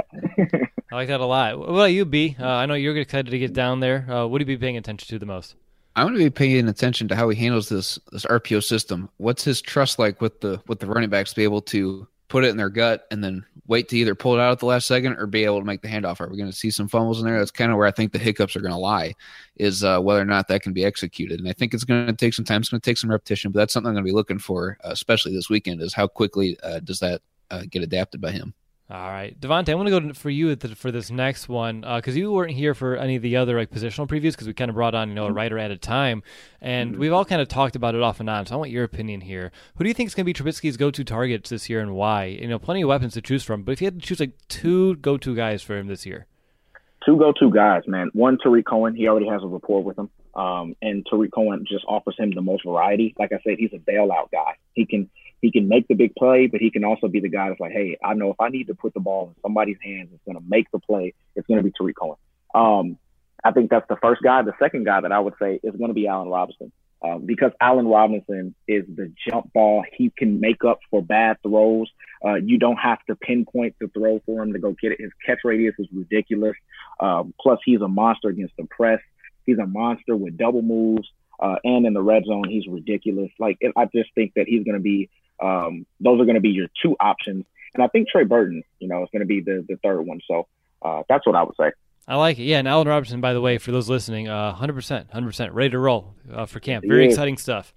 Speaker 2: I like that a lot. What about you, B? Uh, I know you're excited to get down there. Uh, what do you be paying attention to the most?
Speaker 4: I'm going to be paying attention to how he handles this this R P O system. What's his trust like with the with the running backs to be able to put it in their gut and then wait to either pull it out at the last second or be able to make the handoff? Are we going to see some fumbles in there? That's kind of where I think the hiccups are going to lie, is uh, whether or not that can be executed. And I think it's going to take some time. It's going to take some repetition, but that's something I'm going to be looking for, uh, especially this weekend, is how quickly uh, does that uh, get adapted by him.
Speaker 2: All right, Devontae, I want to go for you for this next one because uh, you weren't here for any of the other like positional previews because we kind of brought on you know a writer at a time, and we've all kind of talked about it off and on. So I want your opinion here. Who do you think is going to be Trubisky's go-to targets this year and why? You know, plenty of weapons to choose from, but if you had to choose like two go-to guys for him this year,
Speaker 5: two go-to guys, man. One, Tariq Cohen. He already has a rapport with him, um, and Tariq Cohen just offers him the most variety. Like I said, he's a bailout guy. He can. He can make the big play, but he can also be the guy that's like, hey, I know if I need to put the ball in somebody's hands that's going to make the play, it's going to be Tariq Cohen. Um, I think that's the first guy. The second guy that I would say is going to be Allen Robinson um, because Allen Robinson is the jump ball. He can make up for bad throws. Uh, you don't have to pinpoint the throw for him to go get it. His catch radius is ridiculous. Um, plus, he's a monster against the press. He's a monster with double moves. Uh, and in the red zone, he's ridiculous. Like, I just think that he's going to be Um, those are going to be your two options. And I think Trey Burton, you know, is going to be the, the third one. So uh, that's what I would say.
Speaker 2: I like it. Yeah, and Allen Robinson, by the way, for those listening, uh, one hundred percent, one hundred percent ready to roll uh, for camp. Very yeah. exciting stuff.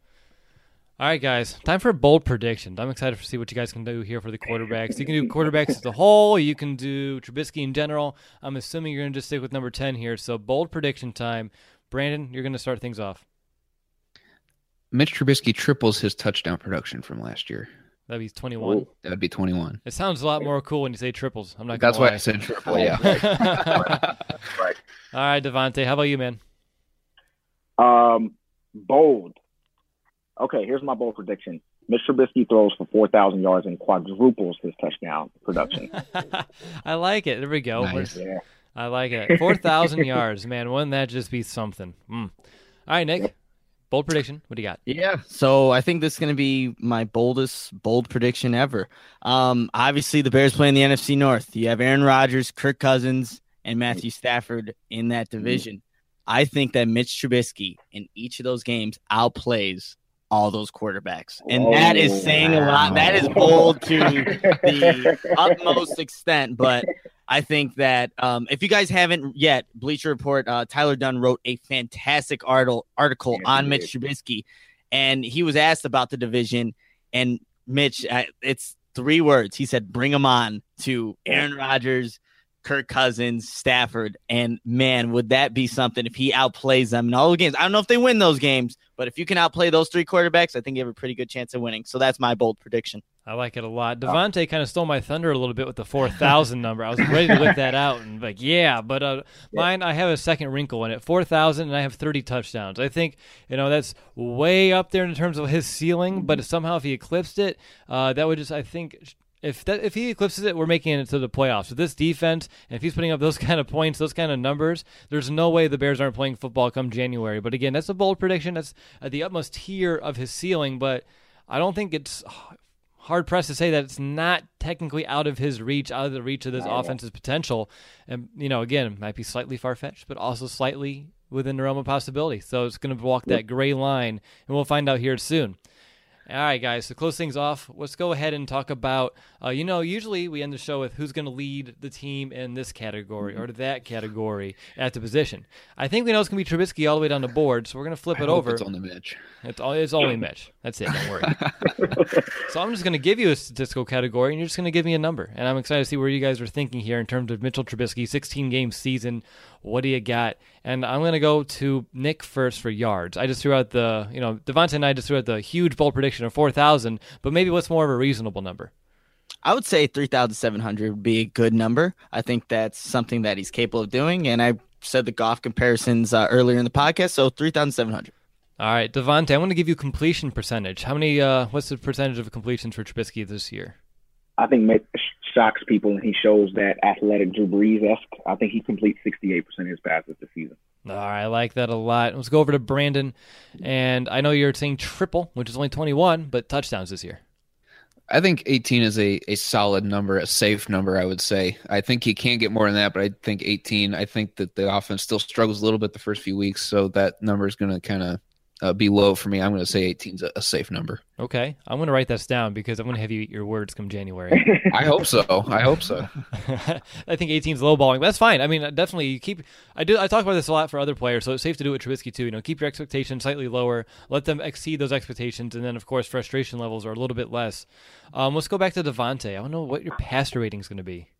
Speaker 2: All right, guys, time for a bold prediction. I'm excited to see what you guys can do here for the quarterbacks. You can do quarterbacks as a whole. You can do Trubisky in general. I'm assuming you're going to just stick with number ten here. So bold prediction time. Brandon, you're going to start things off.
Speaker 4: Mitch Trubisky triples his touchdown production from last year.
Speaker 2: That'd be twenty-one.
Speaker 4: That'd be twenty-one.
Speaker 2: It sounds a lot more cool when you say triples. I'm not.
Speaker 4: That's
Speaker 2: gonna
Speaker 4: why I said triple. Yeah.
Speaker 5: Right.
Speaker 2: All right, Devontae, how about you, man?
Speaker 5: Um, bold. Okay, here's my bold prediction. Mitch Trubisky throws for four thousand yards and quadruples his touchdown production.
Speaker 2: I like it. There we go.
Speaker 4: Nice.
Speaker 5: Yeah.
Speaker 2: I like it. four thousand yards, man. Wouldn't that just be something? Mm. All right, Nick. Yep. Bold prediction. What do you got?
Speaker 3: Yeah, so I think this is going to be my boldest bold prediction ever. Um, obviously, the Bears play in the N F C North. You have Aaron Rodgers, Kirk Cousins, and Matthew Stafford in that division. I think that Mitch Trubisky in each of those games outplays all those quarterbacks. And oh, that is saying wow. a lot. That is bold to the utmost extent, but I think that um, if you guys haven't yet, Bleacher Report, uh, Tyler Dunn wrote a fantastic article, article yeah, on Mitch Trubisky, and he was asked about the division, and Mitch, uh, it's three words. He said, bring them on to Aaron Rodgers, Kirk Cousins, Stafford, and man, would that be something if he outplays them in all the games. I don't know if they win those games, but if you can outplay those three quarterbacks, I think you have a pretty good chance of winning. So that's my bold prediction.
Speaker 2: I like it a lot. Devontae kind of stole my thunder a little bit with the four thousand number. I was ready to whip that out and like, yeah, but uh, yeah. mine, I have a second wrinkle in it, four thousand, and I have thirty touchdowns. I think, you know, that's way up there in terms of his ceiling, but somehow if he eclipsed it, uh, that would just, I think, if that if he eclipses it, we're making it to the playoffs. With this defense, and if he's putting up those kind of points, those kind of numbers, there's no way the Bears aren't playing football come January. But again, that's a bold prediction. That's at the utmost tier of his ceiling, but I don't think it's hard-pressed to say that it's not technically out of his reach, out of the reach of this offense's potential. And, you know, again, it might be slightly far-fetched, but also slightly within the realm of possibility. So it's going to walk that gray line, and we'll find out here soon. All right, guys, to close things off, let's go ahead and talk about, uh, you know, usually we end the show with who's going to lead the team in this category or that category at the position. I think we know it's going to be Trubisky all the way down the board, so we're going to flip
Speaker 4: I
Speaker 2: it
Speaker 4: hope
Speaker 2: over.
Speaker 4: It's only Mitch.
Speaker 2: It's, it's only Mitch. That's it. Don't worry. So I'm just going to give you a statistical category, and you're just going to give me a number. And I'm excited to see where you guys are thinking here in terms of Mitchell Trubisky, sixteen-game season. What do you got? And I'm going to go to Nick first for yards. I just threw out the, you know, Devontae and I just threw out the huge bold prediction of four thousand, but maybe what's more of a reasonable number?
Speaker 3: I would say three thousand seven hundred would be a good number. I think that's something that he's capable of doing, and I said the Goff comparisons uh, earlier in the podcast, so three thousand seven hundred.
Speaker 2: All right, Devontae, I want to give you completion percentage. How many, uh, what's the percentage of completions for Trubisky this year?
Speaker 5: I think Mitch shocks people, and he shows that athletic Drew Brees-esque. I think he completes sixty-eight percent of his passes this season.
Speaker 2: All right, I like that a lot. Let's go over to Brandon, and I know you're saying triple, which is only twenty-one, but touchdowns this year.
Speaker 4: I think eighteen is a, a solid number, a safe number, I would say. I think he can get more than that, but I think eighteen, I think that the offense still struggles a little bit the first few weeks, so that number is going to kind of uh, be low for me. I'm going to say eighteen is a, a safe number.
Speaker 2: Okay. I'm going to write this down because I'm going to have you eat your words come January.
Speaker 4: I hope so. I hope so.
Speaker 2: I think eighteen is lowballing, but that's fine. I mean, definitely you keep – I do. I talk about this a lot for other players, so it's safe to do it with Trubisky too. You know, keep your expectations slightly lower. Let them exceed those expectations, and then, of course, frustration levels are a little bit less. Um, let's go back to Devontae. I want to know what your passer rating is going to be.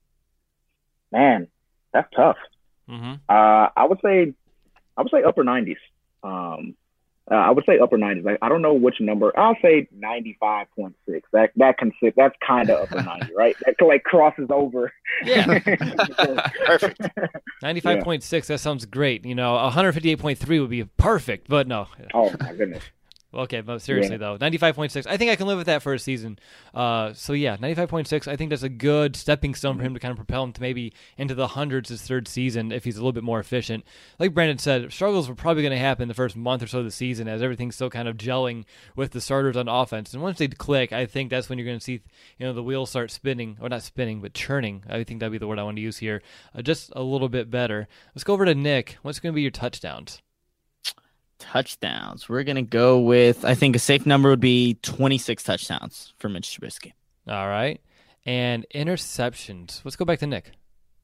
Speaker 5: Man, that's tough.
Speaker 2: Mm-hmm.
Speaker 5: Uh, I would say I would say upper nineties. Um Uh, I would say upper nineties. I, I don't know which number. I'll say ninety-five point six. That that can sit. That's kind of upper ninety, right? That like crosses over.
Speaker 2: Yeah,
Speaker 3: perfect.
Speaker 2: ninety-five point six. That sounds great. You know, one fifty-eight point three would be perfect, but no.
Speaker 5: Oh my goodness.
Speaker 2: Okay, but seriously, yeah. though, ninety-five point six, I think I can live with that for a season. Uh, so, yeah, ninety-five point six, I think that's a good stepping stone for him to kind of propel him to maybe into the hundreds his third season if he's a little bit more efficient. Like Brandon said, struggles were probably going to happen the first month or so of the season as everything's still kind of gelling with the starters on offense. And once they click, I think that's when you're going to see, you know, the wheels start spinning, or not spinning, but churning. I think that'd be the word I want to use here. Uh, just a little bit better. Let's go over to Nick. What's going to be your touchdowns?
Speaker 3: Touchdowns. We're going to go with, I think a safe number would be twenty-six touchdowns for Mitch Trubisky.
Speaker 2: All right. And interceptions. Let's go back to Nick.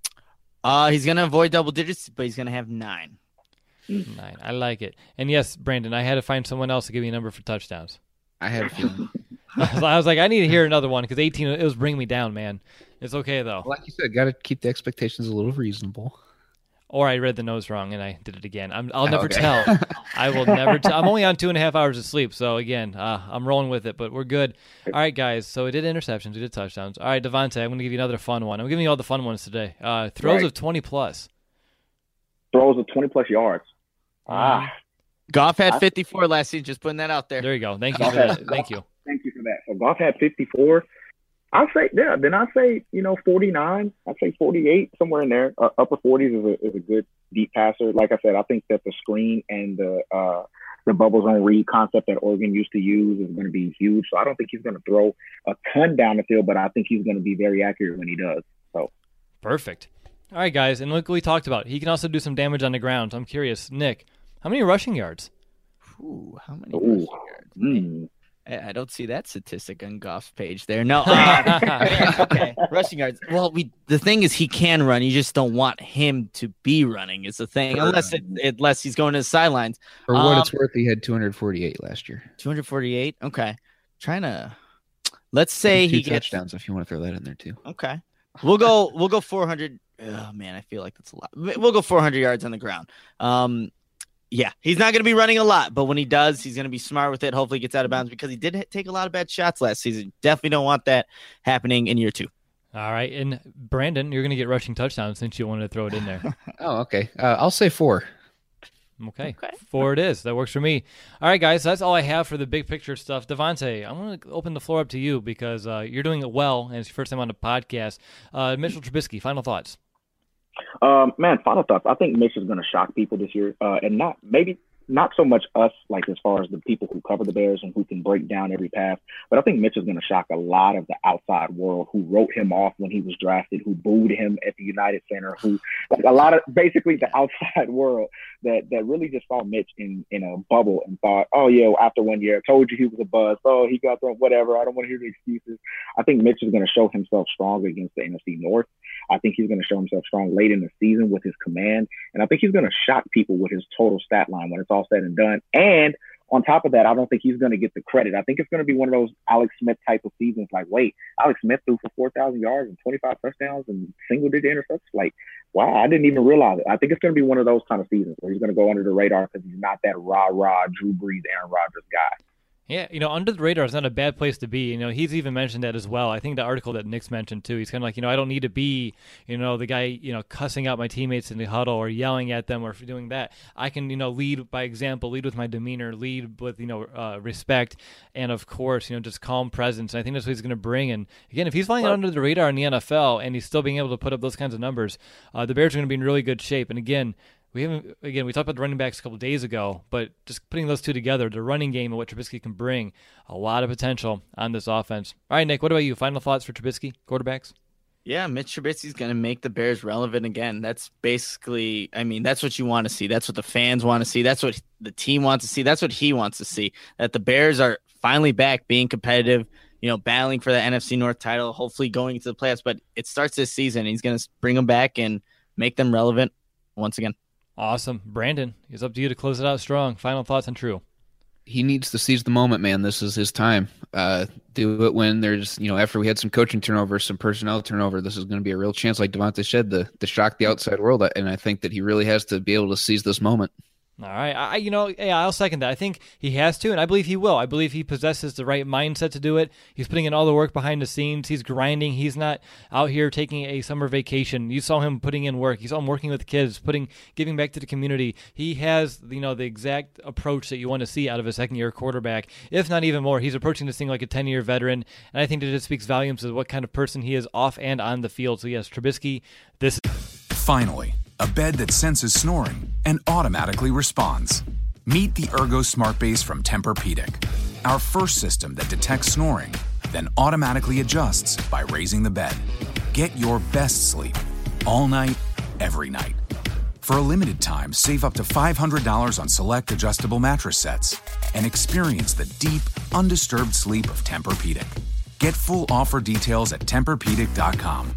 Speaker 3: Uh, he's going to avoid double digits, but he's going to have nine.
Speaker 2: Nine. I like it. And yes, Brandon, I had to find someone else to give me a number for touchdowns.
Speaker 4: I had a feeling.
Speaker 2: I was like, I need to hear another one because eighteen, it was bringing me down, man. It's okay, though.
Speaker 4: Like you said, got to keep the expectations a little reasonable.
Speaker 2: Or I read the nose wrong and I did it again. I'm, I'll never
Speaker 4: okay.
Speaker 2: tell. I will never tell. I'm only on two and a half hours of sleep. So, again, uh, I'm rolling with it, but we're good. All right, guys. So, we did interceptions. We did touchdowns. All right, Devontae, I'm going to give you another fun one. I'm giving you all the fun ones today. Uh, throws
Speaker 5: right.
Speaker 2: of twenty plus.
Speaker 5: Throws of twenty plus yards. Ah.
Speaker 3: Goff had fifty-four last season. Just putting that out there.
Speaker 2: There you go. Thank you for that. Thank you.
Speaker 5: Thank you for that. So, Goff had fifty-four. I'll say, yeah, then I'll say, you know, forty-nine. I'd say forty-eight, somewhere in there. Uh, upper forties is a, is a good deep passer. Like I said, I think that the screen and the uh, the bubble zone read concept that Oregon used to use is going to be huge. So I don't think he's going to throw a ton down the field, but I think he's going to be very accurate when he does. So
Speaker 2: perfect. All right, guys, and look what we talked about. He can also do some damage on the ground. So I'm curious, Nick, how many rushing yards?
Speaker 3: Ooh, how many
Speaker 5: Ooh.
Speaker 3: rushing yards?
Speaker 5: Mm.
Speaker 3: I don't see that statistic on Goff's page there. No, uh, okay, rushing yards. Well, we the thing is he can run. You just don't want him to be running. Is the thing, unless it, unless he's going to the sidelines.
Speaker 4: For what
Speaker 3: um,
Speaker 4: it's worth, he had two hundred forty-eight last year.
Speaker 3: two hundred forty-eight. Okay, trying to. Let's say
Speaker 4: two
Speaker 3: he gets
Speaker 4: touchdowns if you want to throw that in there too.
Speaker 3: Okay, we'll go. We'll go four hundred. Oh man, I feel like that's a lot. We'll go four hundred yards on the ground. Um, Yeah, he's not going to be running a lot, but when he does, he's going to be smart with it. Hopefully he gets out of bounds because he did take a lot of bad shots last season. Definitely don't want that happening in year two.
Speaker 2: All right, and Brandon, you're going to get rushing touchdowns since you wanted to throw it in there.
Speaker 4: Oh, okay. Uh, I'll say four.
Speaker 2: Okay. okay, four it is. That works for me. All right, guys, so that's all I have for the big picture stuff. Devontae, I'm going to open the floor up to you because uh, you're doing it well, and it's your first time on the podcast. Uh, Mitchell Trubisky, final thoughts.
Speaker 5: Um, man, final thoughts. I think Mitch is going to shock people this year, uh, and not maybe not so much us, like as far as the people who cover the Bears and who can break down every pass, but I think Mitch is going to shock a lot of the outside world who wrote him off when he was drafted, who booed him at the United Center, who like a lot of basically the outside world that that really just saw Mitch in in a bubble and thought, oh yeah, well, after one year, I told you he was a buzz. Oh, he got thrown, whatever. I don't want to hear the excuses. I think Mitch is going to show himself strong against the N F C North. I think he's going to show himself strong late in the season with his command. And I think he's going to shock people with his total stat line when it's all said and done. And on top of that, I don't think he's going to get the credit. I think it's going to be one of those Alex Smith type of seasons. Like, wait, Alex Smith threw for four thousand yards and twenty-five touchdowns and single-digit interceptions. Like, wow, I didn't even realize it. I think it's going to be one of those kind of seasons where he's going to go under the radar because he's not that rah-rah Drew Brees, Aaron Rodgers guy.
Speaker 2: Yeah, you know, under the radar is not a bad place to be. You know, he's even mentioned that as well. I think the article that Nick's mentioned too, he's kind of like, you know, I don't need to be, you know, the guy, you know, cussing out my teammates in the huddle or yelling at them or doing that. I can, you know, lead by example, lead with my demeanor, lead with, you know, uh, respect, and of course, you know, just calm presence. And I think that's what he's going to bring. And again, if he's flying under the radar in the N F L and he's still being able to put up those kinds of numbers, uh, the Bears are going to be in really good shape. And again, We haven't again. We talked about the running backs a couple of days ago, but just putting those two together, the running game and what Trubisky can bring, a lot of potential on this offense. All right, Nick, what about you? Final thoughts for Trubisky, quarterbacks?
Speaker 3: Yeah, Mitch Trubisky's going to make the Bears relevant again. That's basically, I mean, that's what you want to see. That's what the fans want to see. That's what the team wants to see. That's what he wants to see. That the Bears are finally back, being competitive, you know, battling for the N F C North title, hopefully going into the playoffs. But it starts this season. He's going to bring them back and make them relevant once again.
Speaker 2: Awesome. Brandon, it's up to you to close it out strong. Final thoughts on True.
Speaker 4: He needs to seize the moment, man. This is his time. Uh, do it when there's, you know, after we had some coaching turnover, some personnel turnover, this is going to be a real chance, like Devontae said, to, to shock the outside world. And I think that he really has to be able to seize this moment.
Speaker 2: All right. I, you know, yeah, I'll second that. I think he has to, and I believe he will. I believe he possesses the right mindset to do it. He's putting in all the work behind the scenes. He's grinding. He's not out here taking a summer vacation. You saw him putting in work. You saw him working with kids, putting, giving back to the community. He has, you know, the exact approach that you want to see out of a second-year quarterback, if not even more. He's approaching this thing like a ten-year veteran, and I think that it speaks volumes of what kind of person he is off and on the field. So, yes, Trubisky, this
Speaker 1: Finally, a bed that senses snoring and automatically responds. Meet the Ergo Smart Base from Tempur-Pedic, our first system that detects snoring, then automatically adjusts by raising the bed. Get your best sleep all night, every night. For a limited time, save up to five hundred dollars on select adjustable mattress sets and experience the deep, undisturbed sleep of Tempur-Pedic. Get full offer details at Tempur Pedic dot com.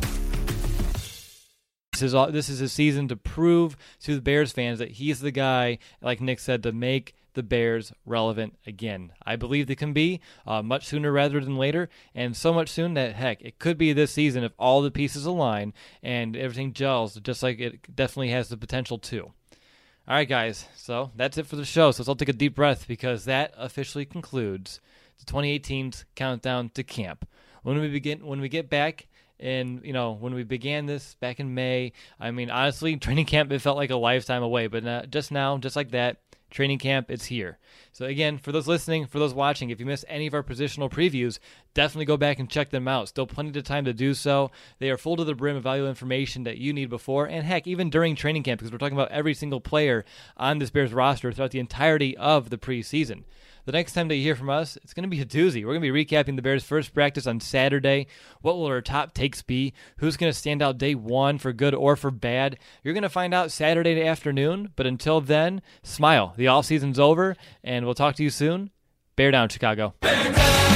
Speaker 2: This is, this is his season to prove to the Bears fans that he's the guy, like Nick said, to make the Bears relevant again. I believe they can be uh, much sooner rather than later, and so much soon that, heck, it could be this season if all the pieces align and everything gels, just like it definitely has the potential to. All right, guys, so that's it for the show. So let's all take a deep breath because that officially concludes the twenty eighteen's countdown to camp. When we begin, when we get back, and, you know, when we began this back in May, I mean, honestly, training camp, it felt like a lifetime away. But uh, just now, just like that, training camp, it's here. So, again, for those listening, for those watching, if you missed any of our positional previews, definitely go back and check them out. Still plenty of time to do so. They are full to the brim of valuable information that you need before, and, heck, even during training camp, because we're talking about every single player on this Bears roster throughout the entirety of the preseason. The next time that you hear from us, it's going to be a doozy. We're going to be recapping the Bears' first practice on Saturday. What will our top takes be? Who's going to stand out day one for good or for bad? You're going to find out Saturday afternoon, but until then, smile. The offseason's over, and we'll talk to you soon. Bear down, Chicago. Bear down!